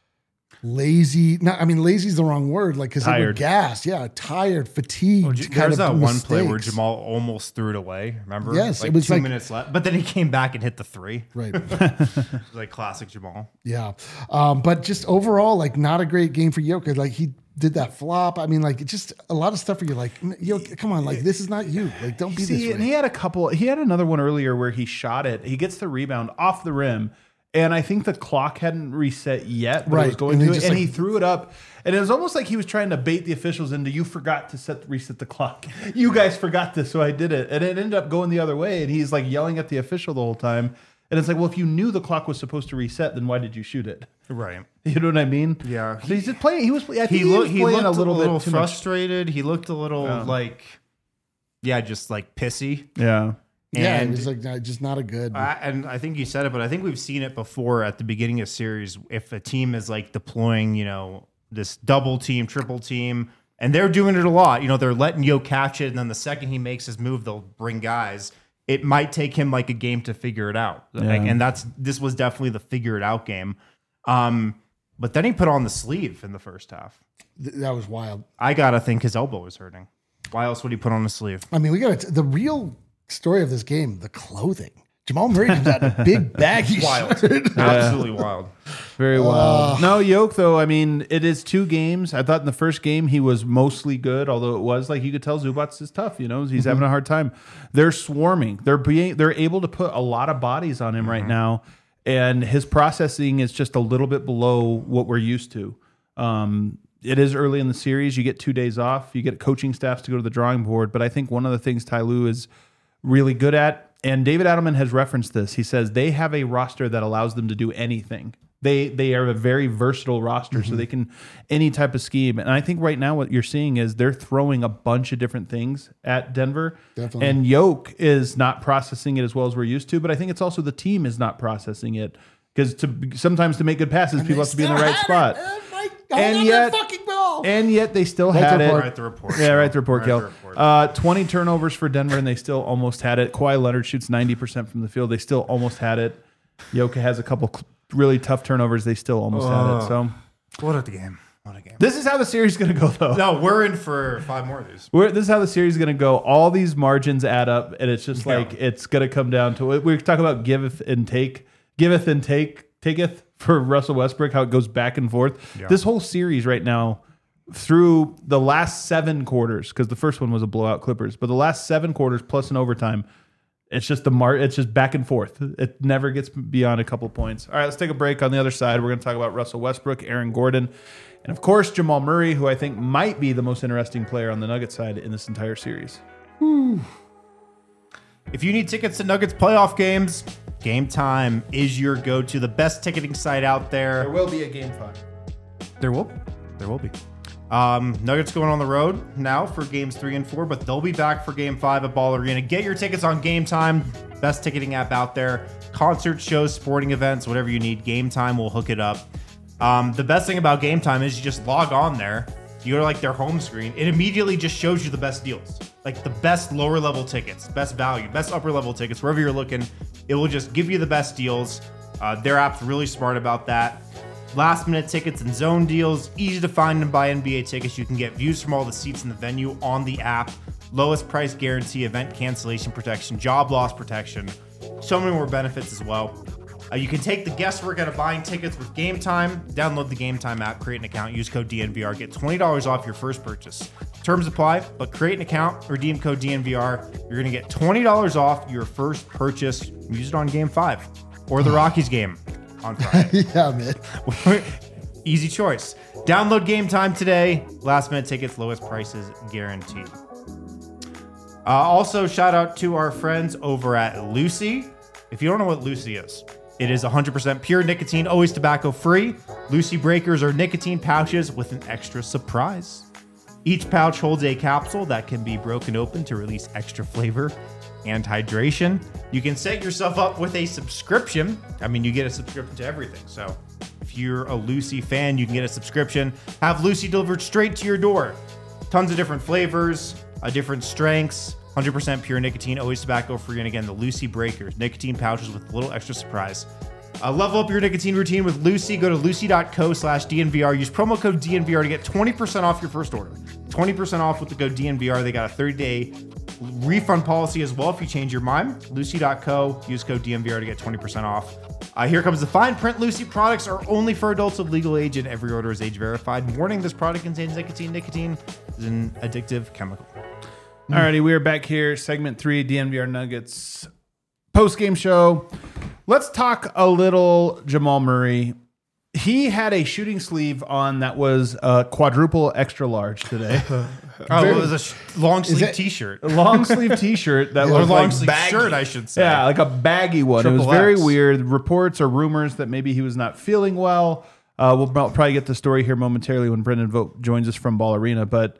Lazy, not, I mean, lazy is the wrong word, like, because they were gassed. Yeah, tired, fatigued. Well, there's that one play where Jamal almost threw it away, remember? Yes, like it was two like, minutes left. But then he came back and hit the three. Right. Like classic Jamal. Yeah. Um, but just overall, like, not a great game for Jokic. Like, he did that flop. I mean, like, just a lot of stuff where you're like, yo, come on, like, this is not you. Like, don't be See, this way. And he had a couple, he had another one earlier where he shot it. He gets the rebound off the rim. And I think the clock hadn't reset yet, but right. it was going and to it, and like, he threw it up. And it was almost like he was trying to bait the officials into, you forgot to set reset the clock. You guys forgot this, so I did it. And it ended up going the other way, and he's like yelling at the official the whole time. And it's like, well, if you knew the clock was supposed to reset, then why did you shoot it? Right. You know what I mean? Yeah. So he's just playing. He was. I think he, he, look, was he playing looked a little, a little bit too frustrated. Much. He looked a little yeah. like, yeah, just like pissy. Yeah. Yeah, and, it was like just not a good. Uh, and I think you said it, but I think we've seen it before at the beginning of series. If a team is like deploying, you know, this double team, triple team, and they're doing it a lot. You know, they're letting Yo catch it, and then the second he makes his move, they'll bring guys. It might take him like a game to figure it out, yeah. like, and that's this was definitely the figure it out game. Um, but then he put on the sleeve in the first half. Th- that was wild. I gotta think his elbow was hurting. Why else would he put on the sleeve? I mean, we got the real. Story of this game, the clothing. Jamal Murray comes out in a big baggy wild. shirt. Absolutely wild. Very wild. Uh, no, Yoke, though, I mean, it is two games. I thought in the first game he was mostly good, although it was like you could tell Zubac is tough, you know, he's mm-hmm. having a hard time. They're swarming. They're being they're able to put a lot of bodies on him mm-hmm. right now, and his processing is just a little bit below what we're used to. Um, it is early in the series. You get two days off. You get coaching staffs to go to the drawing board, but I think one of the things Ty Lue is really good at, and David Adelman has referenced this. He says they have a roster that allows them to do anything. They they are a very versatile roster, mm-hmm. so they can any type of scheme. And I think right now what you're seeing is they're throwing a bunch of different things at Denver. Definitely. And Yoke is not processing it as well as we're used to, but I think it's also the team is not processing it because to sometimes to make good passes, and people have to be in the right spot. And yet, and yet they still right had it. Write the report. Yeah, write the report, Write Kel. the report. Uh, twenty turnovers for Denver, and they still almost had it. Kawhi Leonard shoots ninety percent from the field. They still almost had it. Yoka has a couple really tough turnovers. They still almost oh, had it. So, what a game. What a game. This is how the series is going to go, though. No, we're in for five more of these. We're, this is how the series is going to go. All these margins add up, and it's just Yeah. like it's going to come down to it. We talk about giveth and take, giveth and take, taketh for Russell Westbrook, how it goes back and forth. Yeah. This whole series right now, through the last seven quarters, because the first one was a blowout Clippers, but the last seven quarters plus an overtime, It's just the mar. It's just back and forth. It never gets beyond a couple points. All right, let's take a break. On the other side, we're going to talk about Russell Westbrook, Aaron Gordon, and of course Jamal Murray, who I think might be the most interesting player on the Nuggets side in this entire series. Whew. If you need tickets to Nuggets playoff games, Game Time is your go-to, the best ticketing site out there. There will be a game five. There will, there will be. Um, Nuggets going on the road now for games three and four, but they'll be back for game five at Ball Arena. Get your tickets on Game Time, best ticketing app out there. Concerts, shows, sporting events, whatever you need, Game Time will hook it up. Um, the best thing about Game Time is you just log on there. You go to like their home screen. It immediately just shows you the best deals, like the best lower level tickets, best value, best upper level tickets, wherever you're looking. It will just give you the best deals. Uh, their app's really smart about that. Last minute tickets and zone deals, easy to find and buy N B A tickets. You can get views from all the seats in the venue on the app. Lowest price guarantee, event cancellation protection, job loss protection. So many more benefits as well. Uh, you can take the guesswork out of buying tickets with Game Time. Download the Game Time app, create an account, use code D N V R, get twenty dollars off your first purchase. Terms apply, but create an account, redeem code D N V R. You're going to get twenty dollars off your first purchase. Use it on Game five or the Rockies game on Friday. Yeah, man. Easy choice. Download Game Time today. Last minute tickets, lowest prices guaranteed. Uh, also, shout out to our friends over at Lucy. If you don't know what Lucy is, it is one hundred percent pure nicotine, always tobacco free. Lucy Breakers are nicotine pouches with an extra surprise. Each pouch holds a capsule that can be broken open to release extra flavor and hydration. You can set yourself up with a subscription. I mean, you get a subscription to everything. So if you're a Lucy fan, you can get a subscription. Have Lucy delivered straight to your door. Tons of different flavors, uh, different strengths. one hundred percent pure nicotine, always tobacco free. And again, the Lucy Breakers, nicotine pouches with a little extra surprise. Uh, level up your nicotine routine with Lucy. Go to lucy.co slash DNVR. Use promo code D N V R to get twenty percent off your first order. twenty percent off with the code D N V R. They got a thirty day refund policy as well if you change your mind. Lucy.co. Use code D N V R to get twenty percent off. Uh, here comes the fine print. Lucy products are only for adults of legal age and every order is age verified. Warning, this product contains nicotine. Nicotine is an addictive chemical. Alrighty, we are back here. Segment three, D N V R Nuggets post-game show. Let's talk a little Jamal Murray. He had a shooting sleeve on that was a quadruple extra large today. Oh, it was a sh- long sleeve it- t-shirt. A long sleeve t-shirt that Or was long like sleeve baggy. shirt, I should say. Yeah, like a baggy one. it was Triple very X. weird. Reports or rumors that maybe he was not feeling well. Uh, we'll probably get the story here momentarily when Brendan Vogt joins us from Ball Arena. But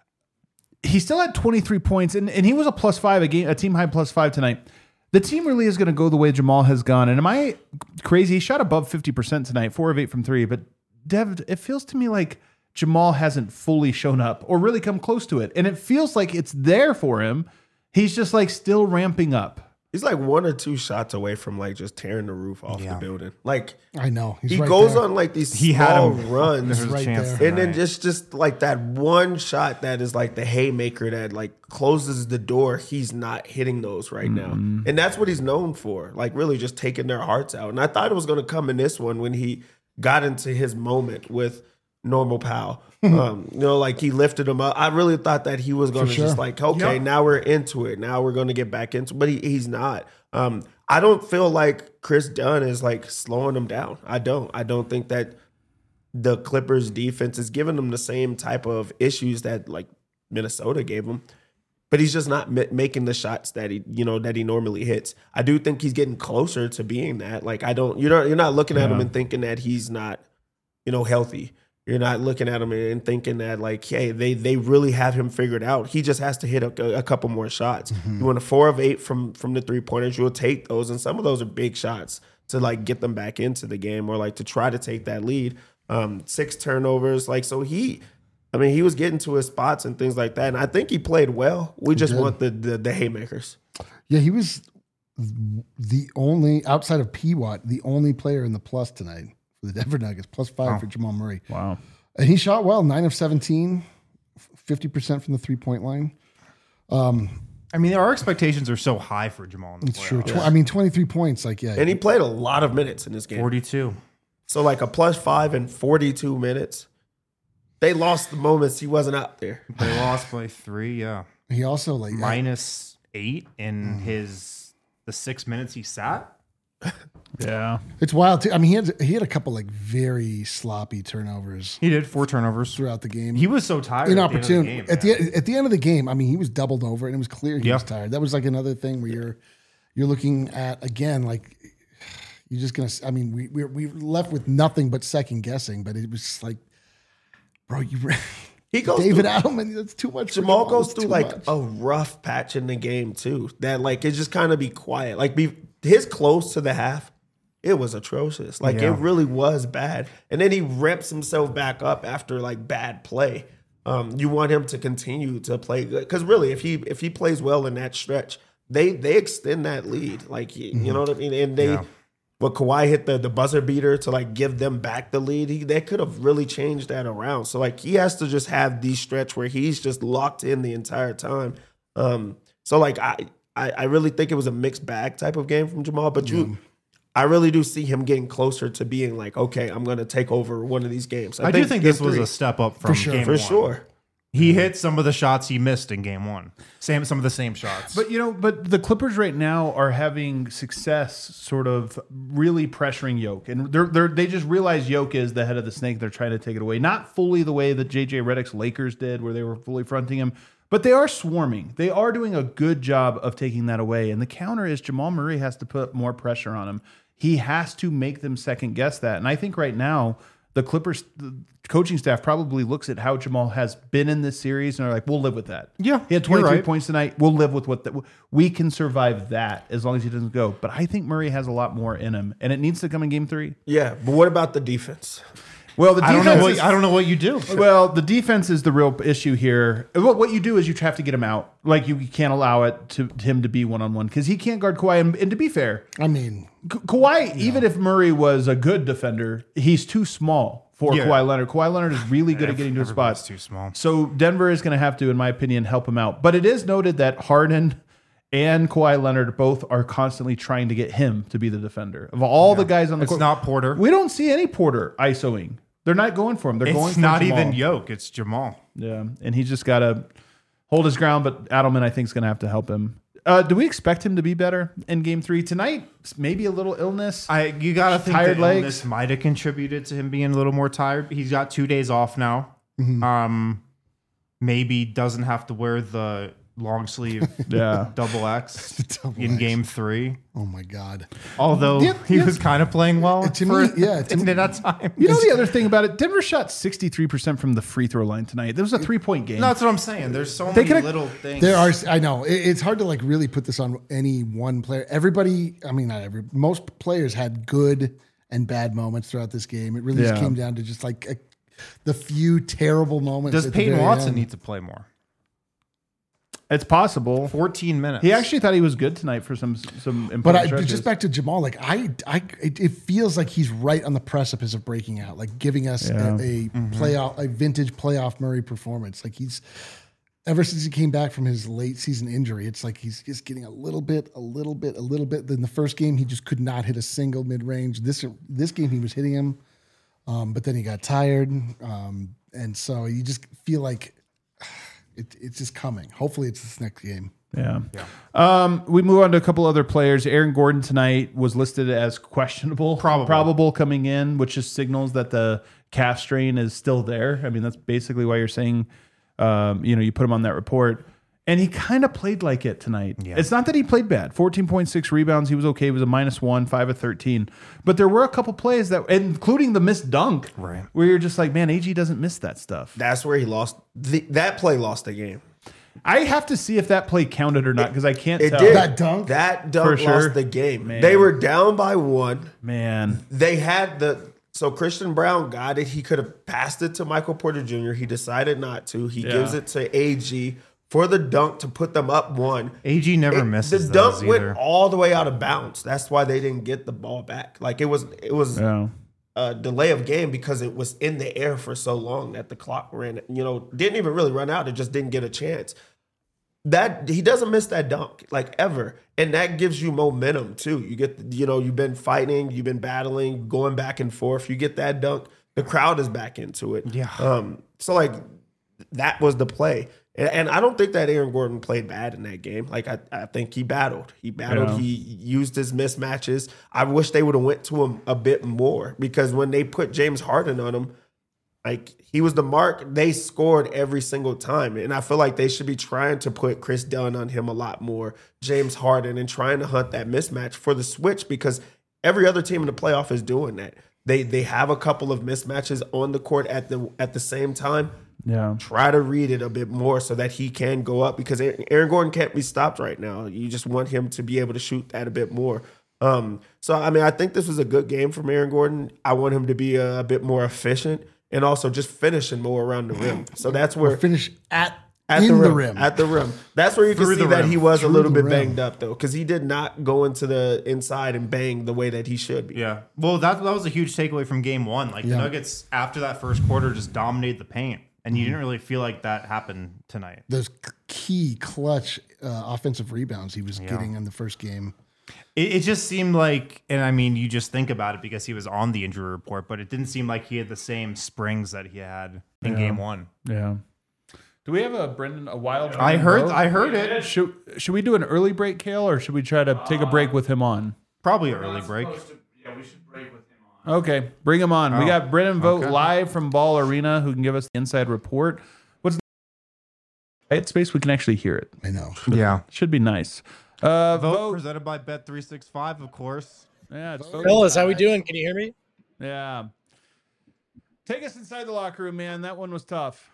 he still had twenty-three points, and, and he was a plus five, a game, a team high plus five tonight. The team really is going to go the way Jamal has gone. And am I crazy? He shot above fifty percent tonight, four of eight from three. But Dev, it feels to me like Jamal hasn't fully shown up or really come close to it. And it feels like it's there for him. He's just like still ramping up. He's like one or two shots away from like just tearing the roof off Yeah. the building. Like I know. He's he right goes there. on like these He had small him. runs, There was a right chance there. and then tonight. just just like that one shot that is like the haymaker that like closes the door. He's not hitting those right now, and that's what he's known for. Like really just taking their hearts out. And I thought it was going to come in this one when he got into his moment with Normal Pal. um, you know, like he lifted him up. I really thought that he was going to sure. just like, okay, Yep. now we're into it. Now we're going to get back into it. But he, he's not. Um, I don't feel like Chris Dunn is like slowing him down. I don't. I don't think that the Clippers defense is giving them the same type of issues that like Minnesota gave him. But he's just not ma- making the shots that he, you know, that he normally hits. I do think he's getting closer to being that. Like I don't, you're not, you're not looking at him and thinking that he's not, you know, healthy. You're not looking at him and thinking that like, hey, they they really have him figured out. He just has to hit a, a couple more shots. Mm-hmm. You want a four of eight from from the three pointers, you'll take those, and some of those are big shots to like get them back into the game or like to try to take that lead. Um, six turnovers, like so he. I mean, he was getting to his spots and things like that, and I think he played well. We just did. want the, the the haymakers. Yeah, he was the only, outside of P. Watt, the only player in the plus tonight for the Denver Nuggets, plus five for Jamal Murray. Wow. And he shot well, nine of seventeen, fifty percent from the three-point line. I mean, our expectations are so high for Jamal in the It's true. playoffs. Tw- I mean, twenty-three points, like, yeah. And he played a lot of minutes in this game. forty-two. So like a plus five and forty-two minutes. They lost the moments he wasn't out there. They lost by three, yeah. He also, like, Minus eight in his the six minutes he sat. Yeah. It's wild too. I mean, he had he had a couple like very sloppy turnovers He did four turnovers. throughout the game. He was so tired. inopportune At the end of the game, at the at the end of the game. I mean, he was doubled over, and it was clear he Yeah. was tired. That was like another thing where you're you're looking at again, like you're just gonna. I mean, we we we left with nothing but second guessing, but it was like, bro, you. He goes David through, Adelman, that's too much. for Jamal goes It's through too like much. a rough patch in the game too. That like it just kind of be quiet. Like be his close to the half, it was atrocious. Like Yeah. it really was bad. And then he ramps himself back up after like bad play. Um, you want him to continue to play good because really, if he if he plays well in that stretch, they they extend that lead. Like you Mm-hmm. know what I mean. And they. Yeah. But Kawhi hit the, the buzzer beater to like give them back the lead. He, they could have really changed that around. So like he has to just have these stretch where he's just locked in the entire time. Um, so like I, I I really think it was a mixed bag type of game from Jamal. But you, I really do see him getting closer to being like, okay, I'm gonna take over one of these games. I, do think this game was three- a step up from sure, game for one. sure. He hit some of the shots he missed in game one. Same, some of the same shots. But you know, but the Clippers right now are having success, sort of really pressuring Yoke, and they're they're they just realize Yoke is the head of the snake. They're trying to take it away, not fully the way that J J Redick's Lakers did, where they were fully fronting him, but they are swarming. They are doing a good job of taking that away. And the counter is Jamal Murray has to put more pressure on him. He has to make them second guess that. And I think right now, the Clippers the coaching staff probably looks at how Jamal has been in this series and are like, we'll live with that. Yeah, He had you're twenty-three right. points tonight. We'll live with what the, we can survive that as long as he doesn't go. But I think Murray has a lot more in him, and it needs to come in game three. Yeah, but what about the defense? Well, the I defense don't know what is, I don't know what you do. well, the defense is the real issue here. What what you do is you have to get him out. Like you can't allow it to him to be one on one because he can't guard Kawhi. And, and to be fair, I mean, Ka- Kawhi, even if Murray was a good defender, he's too small for Yeah. Kawhi Leonard. Kawhi Leonard is really good at getting to his Everybody's spots. too small. So Denver is going to have to, in my opinion, help him out. But it is noted that Harden and Kawhi Leonard both are constantly trying to get him to be the defender. Of all the guys on the It's court, not Porter. we don't see any Porter ISOing. They're not going for him. They're going It's for not Jamal. even Yoke. It's Jamal. Yeah, and he's just got to hold his ground. But Adelman, I think, is going to have to help him. Uh, do we expect him to be better in Game Three tonight? Maybe a little illness. I you gotta think Tired the legs. illness might have contributed to him being a little more tired. He's got two days off now. Um, maybe doesn't have to wear the long sleeve Yeah. double X Double in X. game three. oh my God. Although Yeah, he yeah. was kind of playing well To for me, yeah, to in me- that time. You know the other thing about it, Denver shot sixty-three percent from the free throw line tonight. There was a three-point game. No, that's what I'm saying. There's so They many could've- little things. There are, I know, it- it's hard to like really put this on any one player. Everybody, I mean, not every, most players had good and bad moments throughout this game. It really just Yeah. came down to just like a, the few terrible moments. Does at the Peyton very Watson end. need to play more? It's possible. fourteen minutes. He actually thought he was good tonight for some some important But I, stretches. just back to Jamal, like I, I, it, it feels like he's right on the precipice of breaking out, like giving us Yeah. a, a playoff, a vintage playoff Murray performance. Like he's ever since he came back from his late season injury, it's like he's just getting a little bit, a little bit, a little bit. Then the first game, he just could not hit a single mid range. This this game, he was hitting him, um, but then he got tired, um, and so you just feel like it, it's just coming. Hopefully, it's this next game. Yeah. Um, we move on to a couple other players. Aaron Gordon tonight was listed as questionable, Probable. probable coming in, which just signals that the calf strain is still there. I mean, that's basically why you're saying, um, you know, you put him on that report. And he kind of played like it tonight. Yeah. It's not that he played bad. fourteen point six rebounds. He was okay. He was a minus one, five of thirteen. But there were a couple plays that, including the missed dunk, Right. where you're just like, man, A G doesn't miss that stuff. That's where he lost. The, that play lost the game. I have to see if that play counted or not because I can't It tell. did. That dunk? That dunk For sure. lost the game. Man. They were down by one. Man. They had the so Christian Brown got it. He could have passed it to Michael Porter Junior He decided not to. He Yeah. gives it to A G for the dunk to put them up one. A G never It- misses the dunk those went either. all the way out of bounds. That's why they didn't get the ball back. Like it was it was Yeah. a delay of game because it was in the air for so long that the clock ran. You know, didn't even really run out. It just didn't get a chance. That he doesn't miss that dunk like ever, and that gives you momentum too. You get, you know, you've been fighting, you've been battling, going back and forth. You get that dunk, the crowd is back into it. Yeah. Um. So like, that was the play. And, and I don't think that Aaron Gordon played bad in that game. Like I, I think he battled. He battled. Yeah. He used his mismatches. I wish they would have went to him a bit more because when they put James Harden on him, like he was the mark. They scored every single time, and I feel like they should be trying to put Chris Dunn on him a lot more, James Harden, and trying to hunt that mismatch for the switch because every other team in the playoff is doing that. They they have a couple of mismatches on the court at the at the same time. Yeah. Try to read it a bit more so that he can go up because Aaron Gordon can't be stopped right now. You just want him to be able to shoot that a bit more. Um, so, I mean, I think this was a good game from Aaron Gordon. I want him to be a, a bit more efficient and also just finishing more around the rim. So that's where Or finish at, at in the rim, the rim. At the rim. That's where you can Through see the that rim. he was Through a little the bit rim. banged up, though, because he did not go into the inside and bang the way that he should be. Yeah. Well, that, that was a huge takeaway from game one. Like Yeah. the Nuggets, after that first quarter, just dominated the paint. And you didn't really feel like that happened tonight. Those key clutch uh, offensive rebounds he was getting in the first game. It, it just seemed like, and I mean, you just think about it because he was on the injury report, but it didn't seem like he had the same springs that he had in Yeah. game one. Yeah. Do we have a Brendan a wild? I heard, vote? I heard it. Should should we do an early break, Kale, or should we try to take a break with him on? Probably early break. Yeah, we should break with him on. Okay, bring him on. we Oh, got Brendan Vogt okay. live from Ball Arena, who can give us the inside report. What's the right space? We can actually hear it. I know. Yeah. Should be nice. Uh, Vote Vogt. presented by Bet three sixty-five, of course. Yeah, it's Vogt. Fellas, how we doing? Can you hear me? Yeah. Take us inside the locker room, man. That one was tough.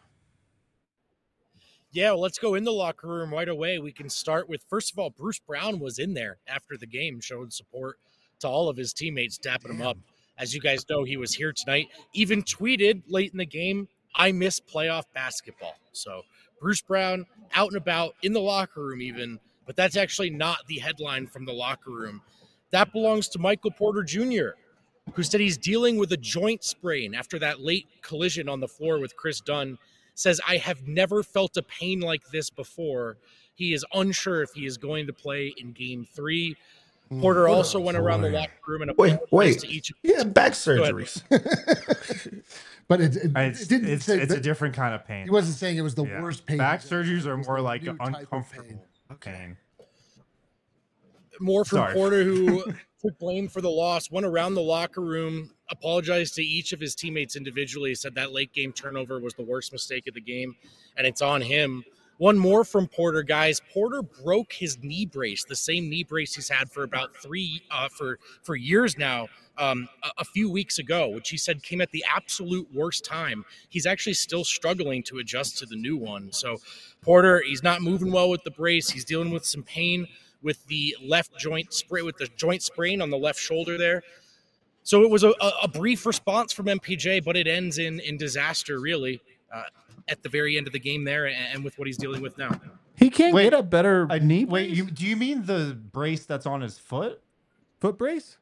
Yeah, well, let's go in the locker room right away. We can start with, first of all, Bruce Brown was in there after the game, showing support to all of his teammates, dapping him up. As you guys know, he was here tonight. Even tweeted late in the game, I miss playoff basketball. So Bruce Brown out and about in the locker room even, but that's actually not the headline from the locker room. That belongs to Michael Porter Junior, who said he's dealing with a joint sprain after that late collision on the floor with Chris Dunn. Says, I have never felt a pain like this before. He is unsure if he is going to play in game three. Porter also went around the locker room and Wait, apologized wait. to each. He had back ahead. surgeries. But it, it, It's, it didn't it's, say it's a that- different kind of pain. He wasn't saying it was the Yeah. worst pain. Back He said surgeries are it was more the like new type of pain. uncomfortable pain. More from Sorry. Porter, who took blame for the loss, went around the locker room, apologized to each of his teammates individually, said that late game turnover was the worst mistake of the game, and it's on him. One more from Porter, guys. Porter broke his knee brace, the same knee brace he's had for about three, uh, for for years now. Um, a, a few weeks ago, which he said came at the absolute worst time. He's actually still struggling to adjust to the new one. So, Porter, he's not moving well with the brace. He's dealing with some pain with the left joint sprain, with the joint sprain on the left shoulder there. So it was a, a, a brief response from M P J, but it ends in in disaster, really, uh, at the very end of the game there, and, and with what he's dealing with now. He can't Wait, get a better I, knee wait, brace? you, do you mean the brace that's on his foot? foot brace?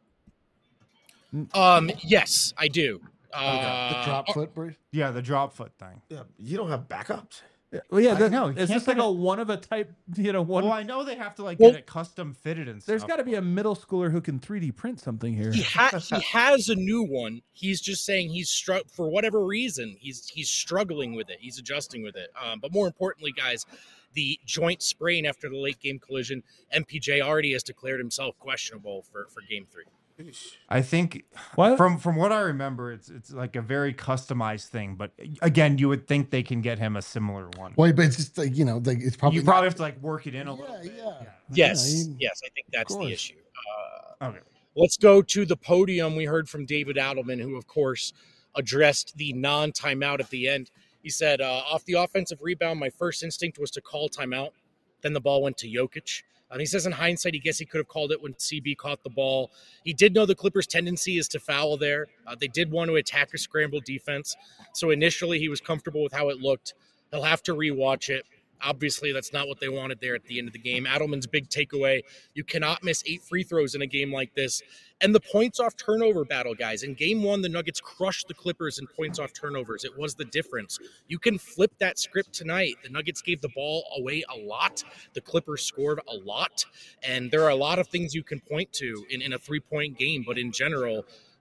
Um, yes, I do. Uh, The drop foot brace. Yeah, the drop foot thing. Yeah, you don't have backups. Well, yeah, I that, know, is you this can't like get a it- one of a type, you know, one? Well, I know they have to like Well- get it custom fitted and stuff. There's got to be a middle schooler who can three D print something here. He, ha- he has a new one. He's just saying he's stru- for whatever reason he's he's struggling with it. He's adjusting with it. Um, but more importantly, guys, the joint sprain after the late game collision, M P J already has declared himself questionable for, for game three. I think What? from from what I remember, it's it's like a very customized thing. But again, you would think they can get him a similar one. Well, but it's just like, you know, like it's probably you not- probably have to like work it in a little Yeah, bit. yeah. Yes, Yeah, he- yes, I think that's the course. issue. Uh, Okay. Let's go to the podium. We heard from David Adelman, who, of course, addressed the non-timeout at the end. He said, uh, off the offensive rebound, my first instinct was to call timeout. Then the ball went to Jokic. And he says in hindsight, he guess he could have called it when C B caught the ball. He did know the Clippers' tendency is to foul there. Uh, they did want to attack a scramble defense. So initially he was comfortable with how it looked. He'll have to rewatch it. Obviously, that's not what they wanted there at the end of the game. Adelman's big takeaway, you cannot miss eight free throws in a game like this. And the points off turnover battle, guys. In game one, the Nuggets crushed the Clippers in points off turnovers. It was the difference. You can flip that script tonight. The Nuggets gave the ball away a lot. The Clippers scored a lot. And there are a lot of things you can point to in, in a three-point game. But in general,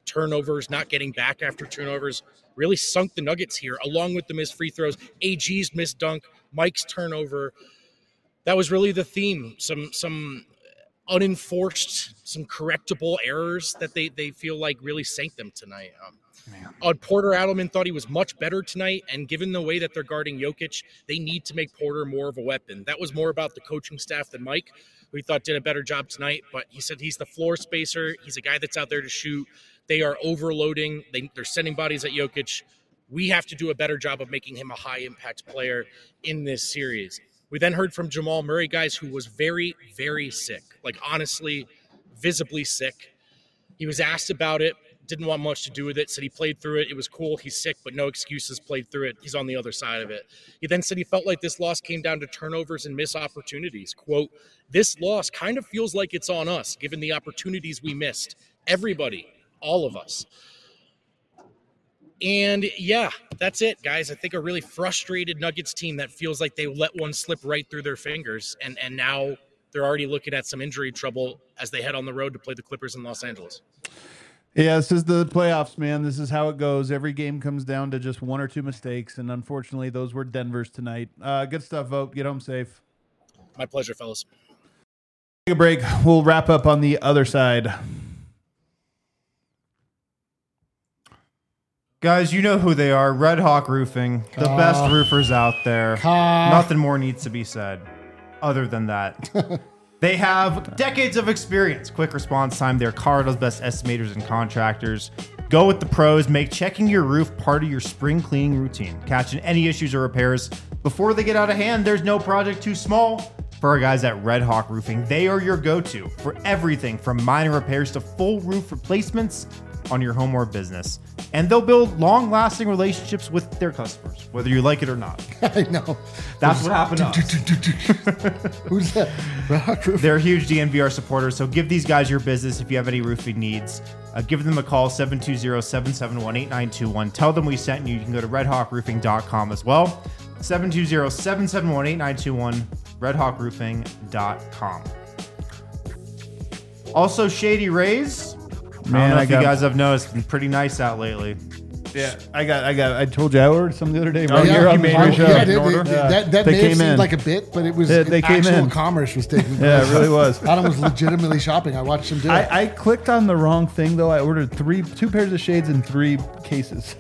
turnovers, not getting back after turnovers, really sunk the Nuggets here, along with the missed free throws, A G's missed dunk, Mike's turnover. That was really the theme. Some some unenforced, some correctable errors that they, they feel like really sank them tonight. Um, uh, Porter Adelman thought he was much better tonight, and given the way that they're guarding Jokic, they need to make Porter more of a weapon. That was more about the coaching staff than Mike, who he thought did a better job tonight, but he said he's the floor spacer. He's a guy that's out there to shoot. They are overloading. They, they're sending bodies at Jokic. We have to do a better job of making him a high-impact player in this series. We then heard from Jamal Murray, guys, who was very, very sick, like honestly, visibly sick. He was asked about it, didn't want much to do with it, said he played through it. It was cool. He's sick, but no excuses, played through it. He's on the other side of it. He then said he felt like this loss came down to turnovers and missed opportunities. Quote, this loss kind of feels like it's on us, given the opportunities we missed. Everybody, all of us. And yeah, that's it, guys. I think a really frustrated Nuggets team that feels like they let one slip right through their fingers, and and now they're already looking at some injury trouble as they head on the road to play the Clippers in Los Angeles. Yeah, this is the playoffs, man. This is how it goes. Every game comes down to just one or two mistakes, and unfortunately, those were Denver's tonight. Uh, good stuff, Vogt. Get home safe. My pleasure, fellas. Take a break. We'll wrap up on the other side. Guys, you know who they are. Red Hawk Roofing, the Uh, best roofers out there. uh, Nothing more needs to be said other than that. They have decades of experience, quick response time. They're Colorado's best estimators and contractors. Go with the pros. Make checking your roof part of your spring cleaning routine. Catching any issues or repairs before they get out of hand. There's no project too small for our guys at Red Hawk Roofing. They are your go-to for everything from minor repairs to full roof replacements on your home or business. And they'll build long-lasting relationships with their customers, whether you like it or not. I know. That's what happened to us. Who's that? Red Hawk Roof. They're huge D N V R supporters, so give these guys your business if you have any roofing needs. Uh, give them a call, seven two zero, seven seven one, eight nine two one. Tell them we sent you. You can go to red hawk roofing dot com as well. seven two zero, seven seven one, eight nine two one, red hawk roofing dot com. Also, Shady Rays. Man, I don't know I if got- you guys have noticed, it's been pretty nice out lately. Yeah, I got, I got, I told you I ordered some the other day. Oh, Right yeah, here you on made the your I- show. yeah, in they- order? they- Yeah. that that They may came have seemed in. like a bit, but it was Yeah, they came actual in. commerce was taking place. Yeah, it really was. Adam was legitimately shopping. I watched him do it. I, I clicked on the wrong thing though. I ordered three, two pairs of shades and three cases.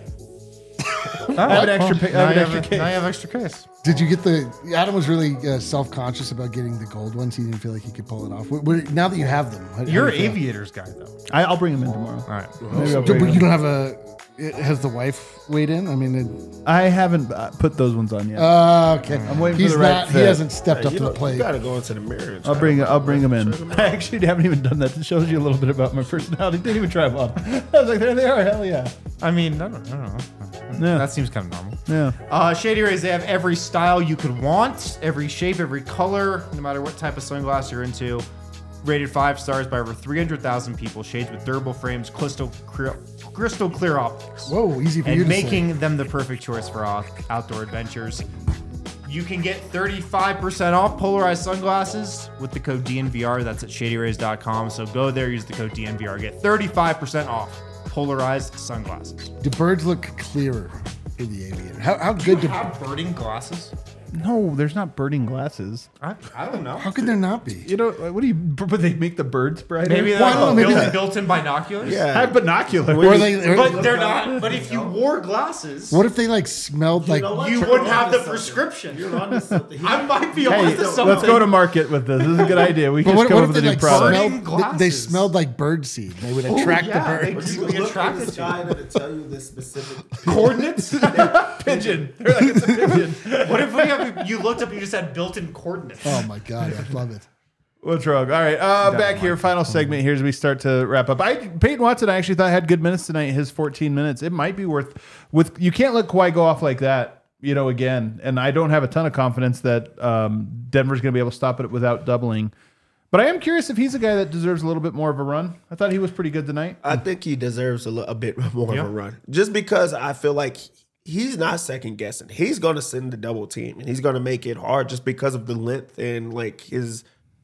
I have an extra, pa- I Now have you an have, extra a- case. now you have extra case. Did you get the? Adam was really uh, self-conscious about getting the gold ones. He didn't feel like he could pull it off. What, what, now that you have them, how- how You're do an you feel? aviators guy, though. I, I'll bring them in tomorrow. All right. Maybe I'll So, bring but them. you don't have a. it- Has the wife weighed in? I mean, it, I haven't uh, put those ones on yet. uh, okay. I'm waiting for He's the right not. He fit. hasn't stepped up You, to know, the plate. you gotta go into the mirror. and I'll try bring, them I'll out. bring them in. Check 'em out. I actually haven't even done that. It shows you a little bit about my personality. Didn't even try them on. I was like, there they are. Hell yeah. I mean, I don't, I don't know. Yeah. That seems kind of normal. Yeah. Uh, Shady Rays, they have every style you could want, every shape, every color, no matter what type of sunglass you're into. Rated five stars by over three hundred thousand people. Shades with durable frames, crystal clear, crystal clear optics. Whoa, easy for you And to say. making them the perfect choice for out- outdoor adventures. You can get thirty-five percent off polarized sunglasses with the code D N V R. That's at shady rays dot com. So go there, use the code D N V R. Get thirty-five percent off polarized sunglasses. Do birds look clearer for the aviator? How, how good do? have birding glasses? No, there's not birding glasses. I, I don't know. How could there not be? You know, what do you, but they make the birds brighter? Maybe Well, I they're don't know, maybe built, that- built-in binoculars. I Yeah. have binoculars. Or they, But they're not. But if you wore glasses, what if they like smelled like? know what? you You're wouldn't onto have the something. prescription. You're onto something. He- I might be Hey, onto something. let's go to market with this. This is a good idea. We But can what, just come what up if with they a new like product. smelled? Birding They, they glasses. smelled like birdseed. They would attract yeah, the they birds. do. You be look attracted in the to. vagina to tell you this specific. Coordinates? Pigeon. They're like, it's a pigeon. What if we have, you looked up and you just had built-in coordinates? Oh my god, I love it. What's wrong? All right, uh, back here. Final segment here as we start to wrap up. I Peyton Watson, I actually thought had good minutes tonight. His fourteen minutes. It might be worth. With you can't let Kawhi go off like that. You know, again, and I don't have a ton of confidence that um, Denver's going to be able to stop it without doubling. But I am curious if he's a guy that deserves a little bit more of a run. I thought he was pretty good tonight. I think he deserves a, li- a bit more Yeah. of a run, just because I feel like he's not second guessing. He's going to send the double team, and he's going to make it hard just because of the length and like his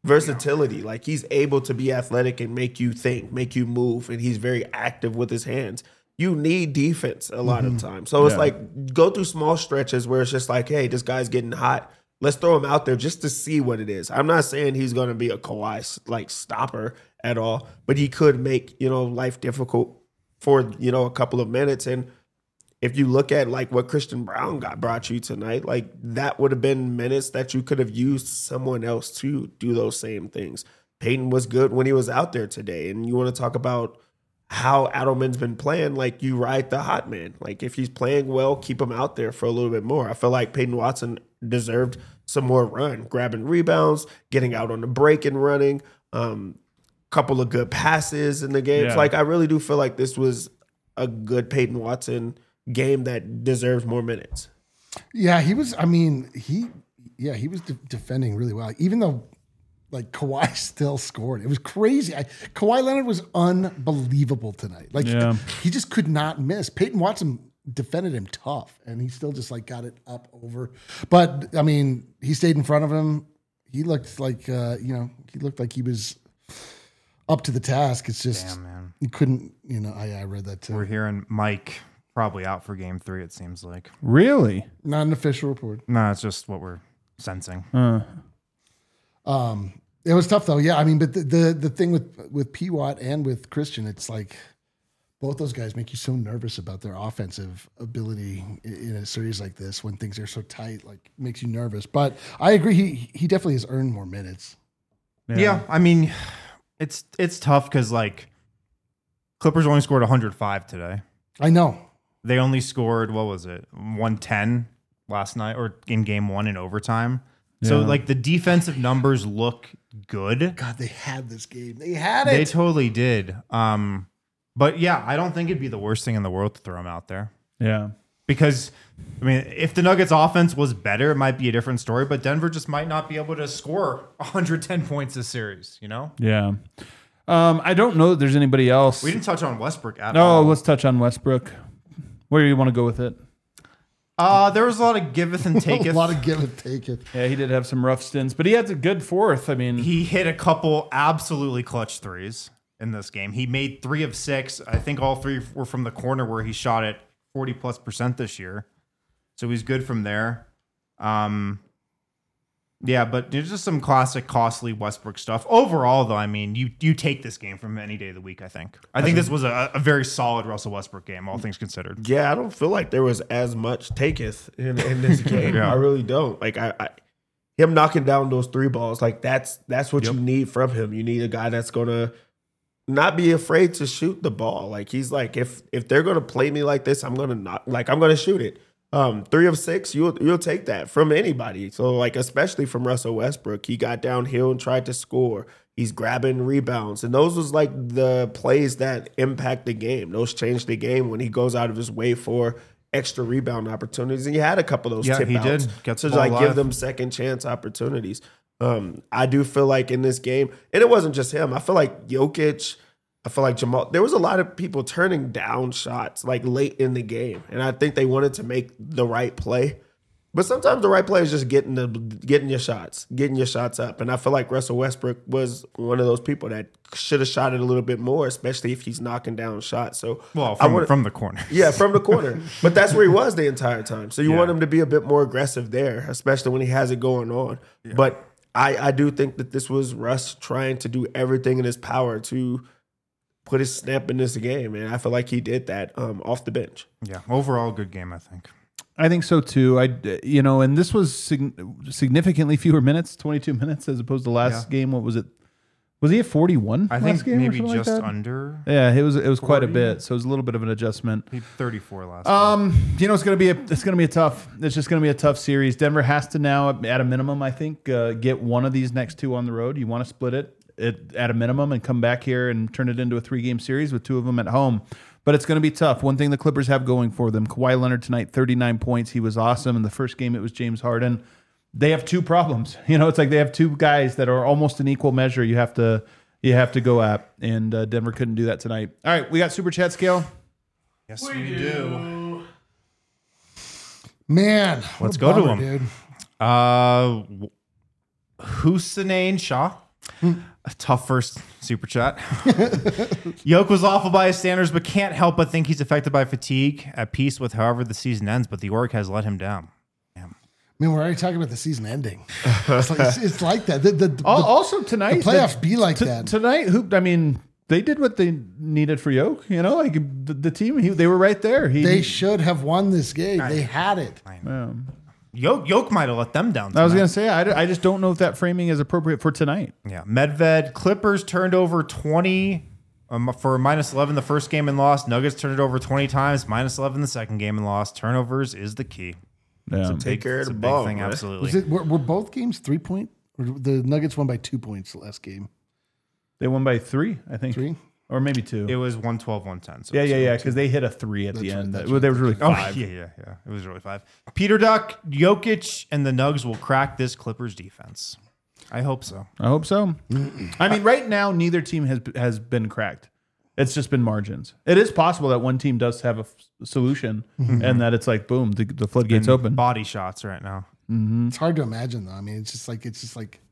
versatility. Like he's able to be athletic and make you think, make you move, and he's very active with his hands. You need defense a lot Mm-hmm. of times. So it's Yeah. like go through small stretches where it's just like, hey, this guy's getting hot. Let's throw him out there just to see what it is. I'm not saying he's going to be a Kawhi like stopper at all, but he could make, you know, life difficult for, you know, a couple of minutes. And if you look at like what Christian Brown got brought you tonight, like that would have been minutes that you could have used someone else to do those same things. Peyton was good when he was out there today. And you want to talk about how Adelman's been playing, like you ride the hot man. Like if he's playing well, keep him out there for a little bit more. I feel like Peyton Watson deserved some more run, grabbing rebounds, getting out on the break and running, um, couple of good passes in the games. Yeah. Like I really do feel like this was a good Peyton Watson game that deserves more minutes. Yeah, he was. I mean, he. Yeah, he was de- defending really well. Even though, like Kawhi still scored, it was crazy. I, Kawhi Leonard was unbelievable tonight. Like Yeah. he just could not miss. Peyton Watson defended him tough, and he still just like got it up over. But I mean, he stayed in front of him. He looked like uh, you know, he looked like he was up to the task. It's just Damn, man. he couldn't. You know, I, I read that too. We're hearing Mike probably out for game three, it seems like. Really? Not an official report. No, it's just what we're sensing. Uh, Um, it was tough though. Yeah, I mean, but the the, the thing with with P Watt and with Christian, it's like both those guys make you so nervous about their offensive ability in, in a series like this when things are so tight. Like makes you nervous. But I agree. He he definitely has earned more minutes. Yeah, I mean, it's it's tough because like Clippers only scored one hundred five today. I know. They only scored, what was it, one ten last night or in game one in overtime. So Yeah. like the defensive numbers look good. God, they had this game. They had They it. totally did. Um, but yeah, I don't think it'd be the worst thing in the world to throw them out there. yeah. Because, I mean, if the Nuggets offense was better, it might be a different story, but Denver just might not be able to score one hundred ten points this series, you know? Yeah. Um, I don't know that there's anybody else. We didn't touch on Westbrook at No, all. let's touch on Westbrook. Where do you want to go with it? Uh, there was a lot of giveth and a taketh. lot of give and take it. Yeah, he did have some rough stints, but he had a good fourth. I mean, He hit a couple absolutely clutch threes in this game. He made three of six. I think all three were from the corner where he shot it forty plus percent this year. So he's good from there. Um, yeah, but there's just some classic costly Westbrook stuff. Overall, though, I mean, you you take this game from any day of the week, I think. I think this was a, a very solid Russell Westbrook game, all things considered. Yeah, I don't feel like there was as much taketh in, in this game. Yeah. I really don't. Like I, I him knocking down those three balls, like that's that's what Yep. you need from him. You need a guy that's gonna not be afraid to shoot the ball. Like he's like, if if they're gonna play me like this, I'm gonna not like I'm gonna shoot it. Um, three of six, you'll you'll take that from anybody. So like, especially from Russell Westbrook, he got downhill and tried to score. He's grabbing rebounds, and those was like the plays that impact the game. Those change the game when he goes out of his way for extra rebound opportunities. And you had a couple of those Yeah, tip he outs did. Gets to the ball like give alive. them second chance opportunities. Um, I do feel like in this game, and it wasn't just him. I feel like Jokic. I feel like Jamal, there was a lot of people turning down shots like late in the game. And I think they wanted to make the right play. But sometimes the right play is just getting the getting your shots, getting your shots up. And I feel like Russell Westbrook was one of those people that should have shot it a little bit more, especially if he's knocking down shots. So Well, I from, wanna- from the corner. yeah, from the corner. But that's where he was the entire time. So you Yeah. want him to be a bit more aggressive there, especially when he has it going on. But I, I do think that this was Russ trying to do everything in his power to put his stamp in this game. And I feel like he did that um, off the bench. Yeah, overall, good game, I think. I think so too. I, you know, and this was sig- significantly fewer minutes, twenty-two minutes as opposed to last Yeah. game. What was it? Was he at forty-one? I last think game or maybe something like just that? under. Yeah, it was. It was quite a forty. bit. So it was a little bit of an adjustment. He thirty-four last. Um, you know, it's gonna be a it's gonna be a tough. It's just gonna be a tough series. Denver has to now, at a minimum, I think, uh, get one of these next two on the road. You want to split it at, at a minimum and come back here and turn it into a three game series with two of them at home. But it's going to be tough. One thing the Clippers have going for them: Kawhi Leonard tonight, thirty-nine points. He was awesome. In the first game, it was James Harden. They have two problems. You know, it's like they have two guys that are almost in equal measure. You have to you have to go at, and uh, Denver couldn't do that tonight. All right, we got super chat scale. yes, we, do. Man, what Let's a go to bummer, him. dude. Uh, Hussein Shah. A tough first super chat. Yoke was awful by his standards, but can't help but think he's affected by fatigue. At peace with however the season ends, but the org has let him down. I mean, we're already talking about the season ending. It's like, it's, it's like that. The, the, the, Al- Also tonight, the playoffs the- be like t- that. Tonight, who? I mean, they did what they needed for Yoke. You know, like the, the team, he, they were right there. He, They should have won this game. They had it. um, Yoke, Yoke might have let them down. I was tonight. gonna say, I, d- I just don't know if that framing is appropriate for tonight. Yeah, Medved. Clippers turned over twenty um, for minus eleven the first game and lost. Nuggets turned it over twenty times, minus eleven the second game and lost. Turnovers is the key. Yeah. Take care of It's the a big ball, thing, man. absolutely. Was it? Were, were both games three point? Or the Nuggets won by two points last game. They won by three, I think, Three. or maybe two. It was one twelve, one ten. So yeah, it's yeah, really yeah, two. because they hit a three at the That's right, end. that's Well, there was really Oh, five. yeah, yeah, yeah. It was really five. Peter Duck, Jokic, and the Nugs will crack this Clippers defense. I hope so. I hope so. I mean, right now, neither team has has been cracked. It's just been margins. It is possible that one team does have a f- solution, and that it's like boom, the, the floodgates And open. Body shots right now. It's hard to imagine though. I mean, it's just like it's just like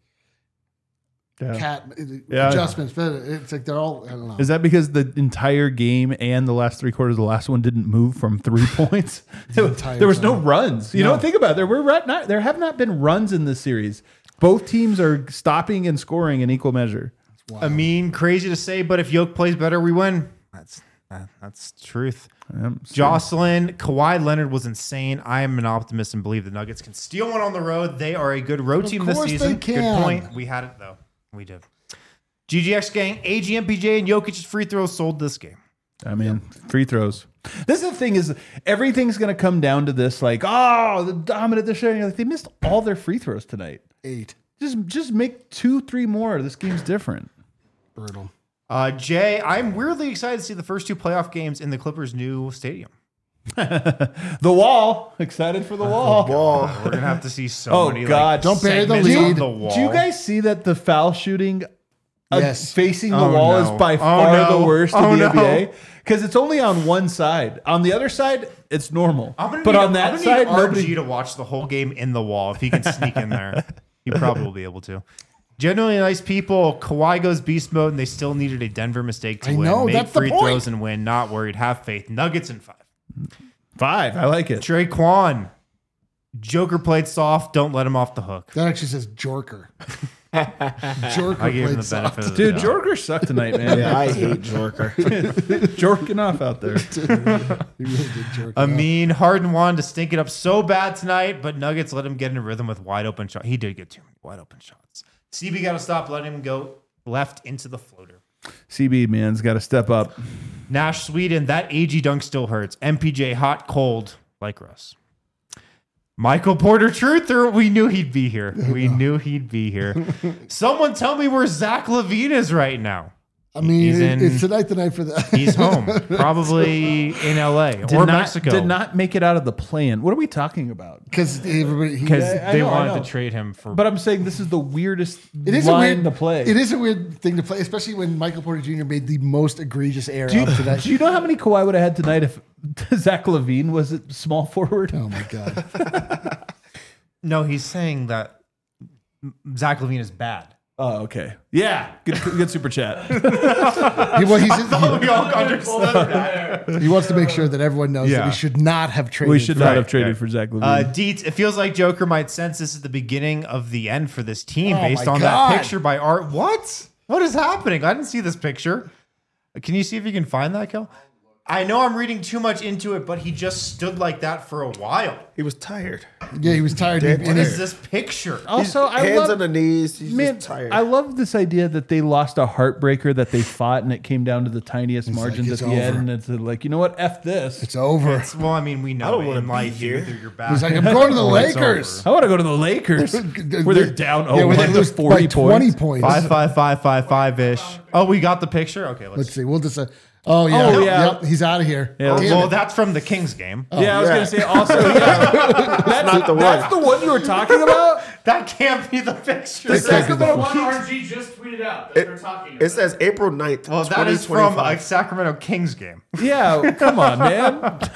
Yeah. cat Yeah. adjustments. But it's like they're all. I don't know. Is that because the entire game and the last three quarters of the last one didn't move from three points? There was- entire there was no time. runs. You No. know, think about it. There were right not there have not been runs in this series. Both teams are stopping and scoring in equal measure. I mean, crazy to say, but if Yoke plays better, we win. That's that, that's the truth. Yep. Jocelyn, Kawhi Leonard was insane. I am an optimist and believe the Nuggets can steal one on the road. They are a good road Of team this course season. they Good can. point. We had it though. We did. G G X gang, A G, M P J, and Jokic's free throws sold this game. I mean, free throws. This is the thing is everything's going to come down to this like, oh, the dominant this year. Like, they missed all their free throws tonight. Eight. Just just make two, three more. This game's different. Brutal. Uh, Jay, I'm weirdly excited to see the first two playoff games in the Clippers' new stadium. The wall. Excited for the wall. Ball. We're gonna have to see so Oh, many. God. like, Don't bury the segments on lead. The wall. Do you guys see that the foul shooting uh, Yes. facing the Oh, wall no. is by Oh, far no. the worst Oh, in the no. N B A? Because it's only on one side. On the other side, it's normal. I'm gonna But need, on I'm that gonna side, need R G nobody. to watch the whole game in the wall. If he can sneak in there, he probably will be able to. Genuinely nice people. Kawhi goes beast mode, and they still needed a Denver mistake to I win. know, Make that's the free point. throws and win. Not worried. Have faith. Nuggets in five. Five. I like it. Trey Quan. Joker played soft. Don't let him off the hook. That actually says Jorker. Jorker I gave him played the benefit soft. of the Dude, doubt. Jorker sucked tonight, man. Yeah, I hate Jorker. Jorking off out there. He really did jerk. I off. mean, Harden wanted to stink it up so bad tonight, but Nuggets let him get in a rhythm with wide open shots. He did get too many wide open shots. C B got to stop letting him go left into the floater. C B, man's got to step up. Nash Sweden, that A G dunk still hurts. M P J, hot, cold, like Russ. Michael Porter Truther, we knew he'd be here. We knew he'd be here. Someone tell me where Zach LaVine is right now. I mean, he's it- in- it's tonight the night for that. He's home, probably in L A Did or not, Mexico. Did not make it out of the plan. What are we talking about? Because everybody. he- because Yeah, I they know, I wanted know. to trade him for. But I'm saying this is the weirdest It is a line weird to play. It is a weird thing to play, especially when Michael Porter Junior made the most egregious error Do you, of tonight. do you know how many Kawhi would have had tonight if Zach LaVine was at small forward? Oh my god! no, he's saying that Zach LaVine is bad. Oh, okay. Yeah. Good, good super chat. He, well, he's, we all understood that. he, he wants to make sure that everyone knows that Yeah. we should not have traded. We should for- not have Right, traded right. for Zach LaVine. Uh, Dietz, it feels like Joker might sense this is the beginning of the end for this team Oh based my on God. that picture by Art. What? What is happening? I didn't see this picture. Can you see if you can find that, Kel? I know I'm reading too much into it, but he just stood like that for a while. He was tired. Yeah, he was tired. Dead and What his- is this picture? also, I Hands love, on the knees. He's man, just tired. I love this idea that they lost a heartbreaker that they fought and it came down to the tiniest margins it's at the end. over. And it's like, you know what? F this. it's over. It's- well, I mean, we know I don't it wanna in be life. here. Either you're back. He's like, I'm going to the or it's Lakers. over. I want to go to the Lakers where they're down Yeah, oh where they one to lose forty by twenty points. points. Five, five, five, five, five ish. Oh, we got the picture. Okay, let's. Let's see. We'll just. Uh, oh yeah. Oh, yeah. Yep, he's out of here. Yeah, Damn well, it. that's from the Kings game. Yeah, I was yeah. going to say also, yeah. that's, not the one. that's the one you were talking about? That can't be the picture. This can't be the The one. one R G just tweeted out that they're talking about. It says April ninth. Well, that is from a Sacramento Kings game. Yeah, come on, man.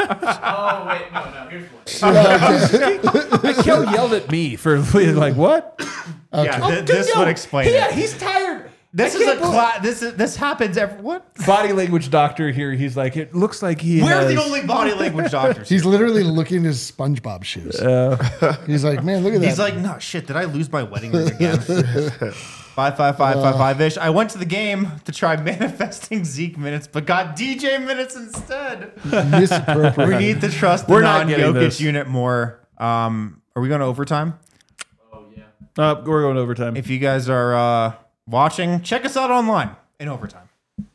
Oh, wait, no, no, here's one. Kel yelled at me for like, what? Yeah, Oh, th- dude, this yo, would explain Yeah, it. he's tired. This I is a can't believe- cla- this is this happens every what? body language doctor here. He's like, it looks like he. We're has, the only body language doctors. He's here. literally looking at his SpongeBob shoes. He's like, man, look at that. He's like, no shit. Did I lose my wedding ring again? Five, five, five, five, five ish. I went to the game to try manifesting Zeke minutes, but got D J minutes instead. misappropriated. We need to trust the We're not getting non-Jokic this. unit more. Um, are we going to overtime? Uh, we're going overtime. If you guys are uh, watching, check us out online in overtime.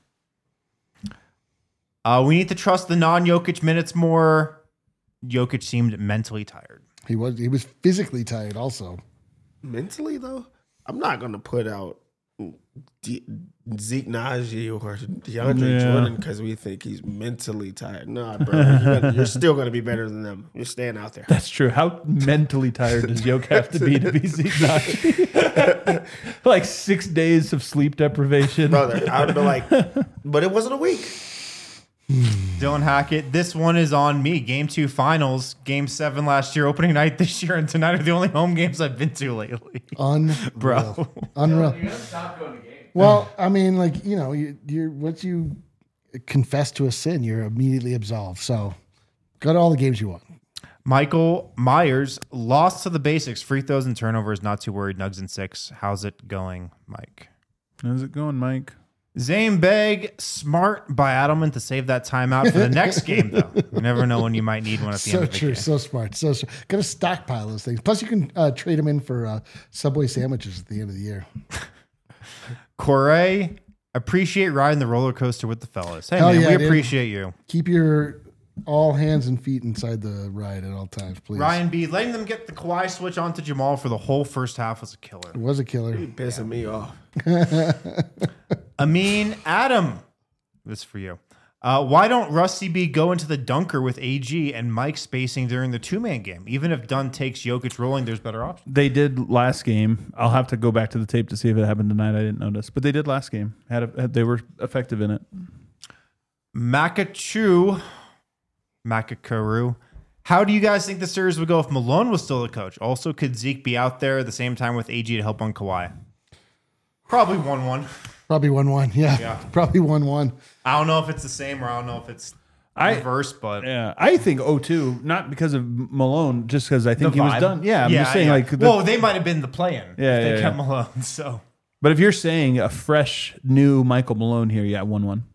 Uh, we need to trust the non-Jokic minutes more. Jokic seemed mentally tired. He was he was physically tired also. Mentally though, I'm not gonna put out D- Zeke Naji or DeAndre Yeah. Jordan because we think he's mentally tired. Nah, bro, you're, gonna- you're still gonna be better than them. You're staying out there. That's true. How mentally tired does Yoke have to be to be Zeke Naji? Like six days of sleep deprivation. Brother, I would be like, but it wasn't a week. Dylan Hackett, this one is on me. Game two finals, game seven last year, opening night this year, and tonight are the only home games I've been to lately. Unreal. Bro. Unreal. You gotta stop going to games. Well, I mean, like, you know, you, you're once you confess to a sin, you're immediately absolved. So go to all the games you want. Michael Myers lost to the basics, free throws and turnovers. Not too worried. Nugs and six. How's it going, Mike? How's it going, Mike? Zane Beg, smart by Adelman to save that timeout for the next game, though. You never know when you might need one at the So end of the true, game. so smart, so smart. Got to stockpile those things. Plus, you can uh, trade them in for uh, Subway sandwiches at the end of the year. Corey, appreciate riding the roller coaster with the fellas. Hey, Hell man, yeah, we dude. appreciate you. Keep your all hands and feet inside the ride at all times, please. Ryan B, letting them get the Kawhi switch onto Jamal for the whole first half was a killer. It was a killer. Pissing me off. Amin Adam, this is for you. Uh, why don't Rusty B go into the dunker with A G and Mike spacing during the two-man game? Even if Dunn takes Jokic rolling, there's better options. They did last game. I'll have to go back to the tape to see if it happened tonight. I didn't notice, but they did last game. Had, a, had they were effective in it. Makachu, Makakaru. How do you guys think the series would go if Malone was still the coach? Also, could Zeke be out there at the same time with A G to help on Kawhi? Probably one one. Probably one one. Yeah, Yeah. probably one one. I don't know if it's the same or I don't know if it's I- reverse, but Yeah, I think oh two, not because of Malone, just because I think the he was vibe. done. Yeah, I'm just saying yeah. like. The, well, they might have been the play-in. Yeah, if they yeah, kept yeah. Malone. So but if you're saying a fresh new Michael Malone here, yeah, one one.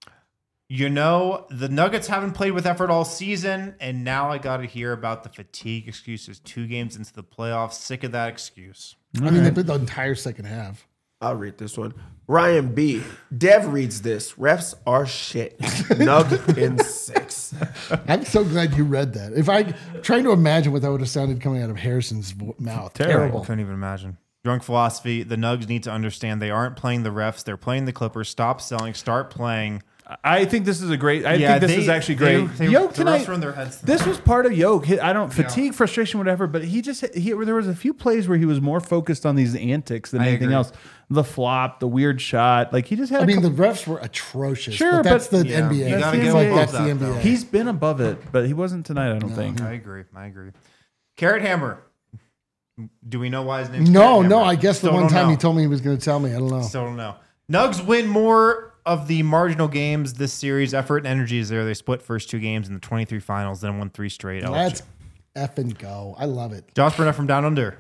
you know the Nuggets haven't played with effort all season, and now I got to hear about the fatigue excuses. Two games into the playoffs, sick of that excuse. I mean, they played the entire second half. I'll read this one. Ryan B. Dev reads this. Refs are shit. Nug in six. I'm so glad you read that. If I trying to imagine what that would have sounded coming out of Harrison's vo- mouth, I terrible. couldn't even imagine. Drunk philosophy. The Nugs need to understand they aren't playing the refs. They're playing the Clippers. Stop selling. Start playing. I think this is a great. I Yeah, think this they- is actually they- great. they- Yoke the refs tonight. were in their heads This was part of Yoke. He- I don't fatigue, frustration, whatever. But he just he there was a few plays where he was more focused on these antics than I anything agree. else. The flop, the weird shot. Like he just had. I a mean, couple, the refs were atrocious. Sure, but that's but- the Yeah, N B A. you That's gotta the- get like, above that's that, the N B A. though. he's been above it, but he wasn't tonight. I don't think. I agree. I agree. Carrot Hammer. Do we know why his name's No, Carrot no. Hammer? I guess the Still one don't time know. he told me he was going to tell me. I don't know. Still don't know. Nugs win more of the marginal games this series. Effort and energy is there. They split first two games in the twenty-three finals, then won three straight. Let's effing go. I love it. Josh Burnett from Down Under.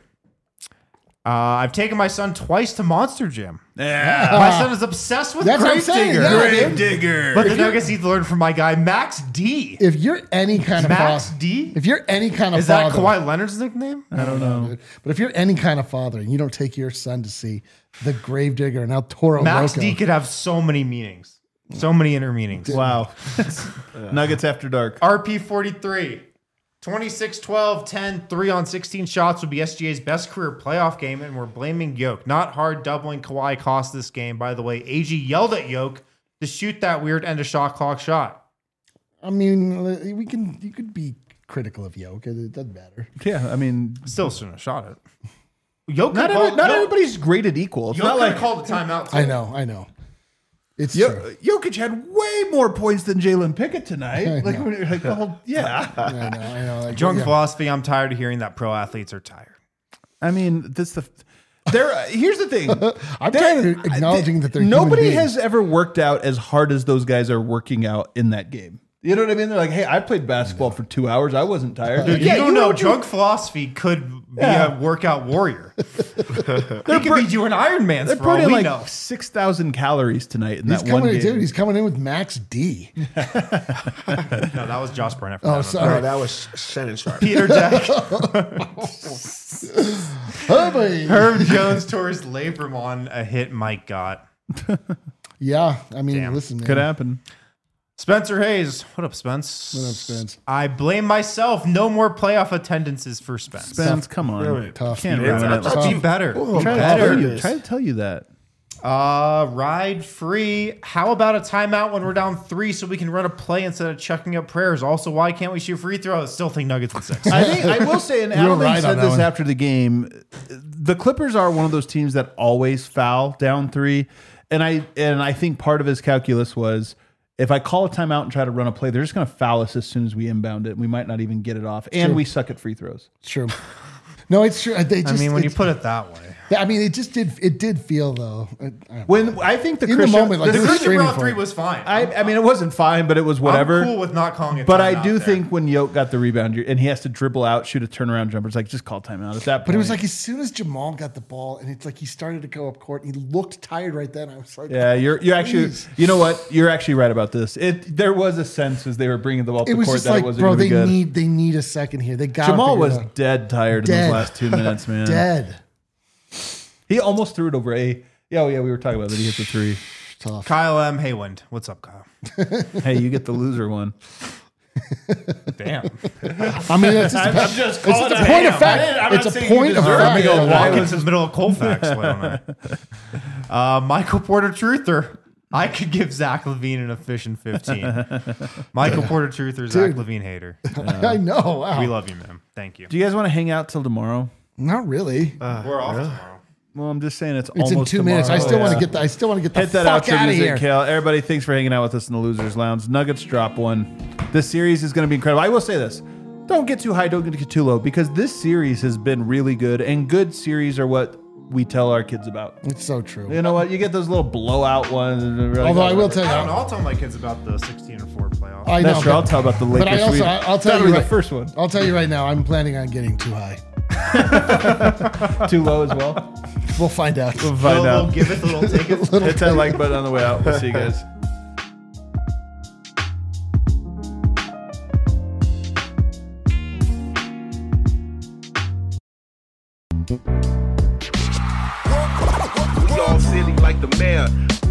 Uh, I've taken my son twice to Monster Jam. Yeah. My son is obsessed with That's what I'm Grave saying, Digger. yeah. Grave digger. But the Nuggets need to learn from my guy, Max D. If you're any kind of Max father, D? if you're any kind of Is that father, Kawhi Leonard's nickname? I don't know, dude. But if you're any kind of father and you don't take your son to see the Gravedigger and El Toro Max Loco, D could have so many meanings. So many inner meanings. Wow. Nuggets after dark. R P forty-three. twenty-six, twelve, ten, three on sixteen shots would be S G A's best career playoff game, and we're blaming Yoke. Not hard doubling Kawhi cost this game. By the way, A G yelled at Yoke to shoot that weird end of shot clock shot. I mean, we can. You could be critical of Yoke. It doesn't matter. Yeah, I mean, Still shouldn't have shot it. Yoke not, could every, call- not Yoke- everybody's graded equal. It's Yoke not could like have called a timeout. Too. I know. I know. It's Yo- true. Jokic had way more points than Jalen Pickett tonight. I Like, know. when you're like, oh, yeah. I know. I know. Like, Drunk yeah. philosophy. I'm tired of hearing that pro athletes are tired. I mean, this the They're here's the thing. I'm They're- kind of acknowledging that they're human nobody beings. has ever worked out as hard as those guys are working out in that game. You know what I mean? They're like, hey, I played basketball for two hours. I wasn't tired. Dude, yeah, you don't know. were- Drug philosophy could be Yeah. a workout warrior. He could be doing Iron Man's They're for all putting we like know. six thousand calories tonight in He's that one coming, game. dude. He's coming in with Max D. No, that was Josh Barnett. Oh, Oh, sorry. that was Shannon Sharp. Peter Jack. Oh, boy. Herb Jones tore his labrum on a hit Mike got. Yeah, I mean, Damn. listen, man. Could happen. Spencer Hayes. What up, Spence? What up, Spence? I blame myself. No more playoff attendances for Spence. Spence, come on. Really Tough. Can't dude. ruin it. Let's be better. Oh, Try to, better. tell you, try to tell you that. Uh, ride free. How about a timeout when we're down three so we can run a play instead of chucking up prayers? Also, why can't we shoot free throws? Still think Nuggets in six. I think I will say, and You were Adelman right on said that this one. after the game. The Clippers are one of those teams that always foul down three, and I and I think part of his calculus was if I call a timeout and try to run a play, they're just going to foul us as soon as we inbound it. We might not even get it off, and True. we suck at free throws. It's true. No, it's true. They I just, mean, when you it's- put it that way. I mean, it just did. It did feel though. I, I don't know. When I think the In the Christian, moment, like, The They were Christian screaming Brown for three it. was fine. I, I mean, it wasn't fine, but it was whatever. I'm cool with not calling it. But I timeout do there. think when Yoke got the rebound and he has to dribble out, shoot a turnaround jumper, it's like just call timeout at that point. But it was like as soon as Jamal got the ball, and it's like he started to go up court, and he looked tired right then. I was like, yeah, you're you actually, Please. you know what? You're actually right about this. It there was a sense as they were bringing the ball to it was court just that like, it wasn't bro, going to they be good. need they need a second here. They got Jamal was dead tired in Dead. those last two minutes, man. dead. He almost threw it over a. Yeah, oh yeah, we were talking about that. He hit the three. Tough. Kyle M. Haywind. What's up, Kyle? Hey, you get the loser one. Damn. I mean, it's just, I'm a, just it's calling just a it point ham. of fact. I didn't- I'm It's not a saying you point of deserve fact. it. Go Yeah, walk I into the middle of Colfax. Why don't I? Uh, Michael Porter Truther. I could give Zach Levine an efficient fifteen. Michael Porter Truther, Zach Dude. Levine hater. I know. Wow. We love you, man. Thank you. Do you guys want to hang out till tomorrow? Not really. We're off tomorrow. Well, I'm just saying it's, it's in almost two minutes. I tomorrow. still want Yeah. to get the. I still want to get the Hit that fuck outro out of music, here. Kale. Everybody, thanks for hanging out with us in the Losers Lounge. Nuggets drop one. This series is going to be incredible. I will say this. Don't get too high, don't get too low, because this series has been really good, and good series are what we tell our kids about. It's so true. You know what? You get those little blowout ones. and they're like, Although I oh, will tell you, I don't know. I'll tell my kids about the sixteen and four playoffs. I That's know. true. but- I'll tell about the Lakers. But I also, sweep. I- I'll tell That'll you be right, the first one. I'll tell you right now. I'm planning on getting too high. Too low as well. We'll find out. We'll find Little, out. little give it, little take it. Hit that like button on the way out. We'll see you guys. We all silly like the mayor.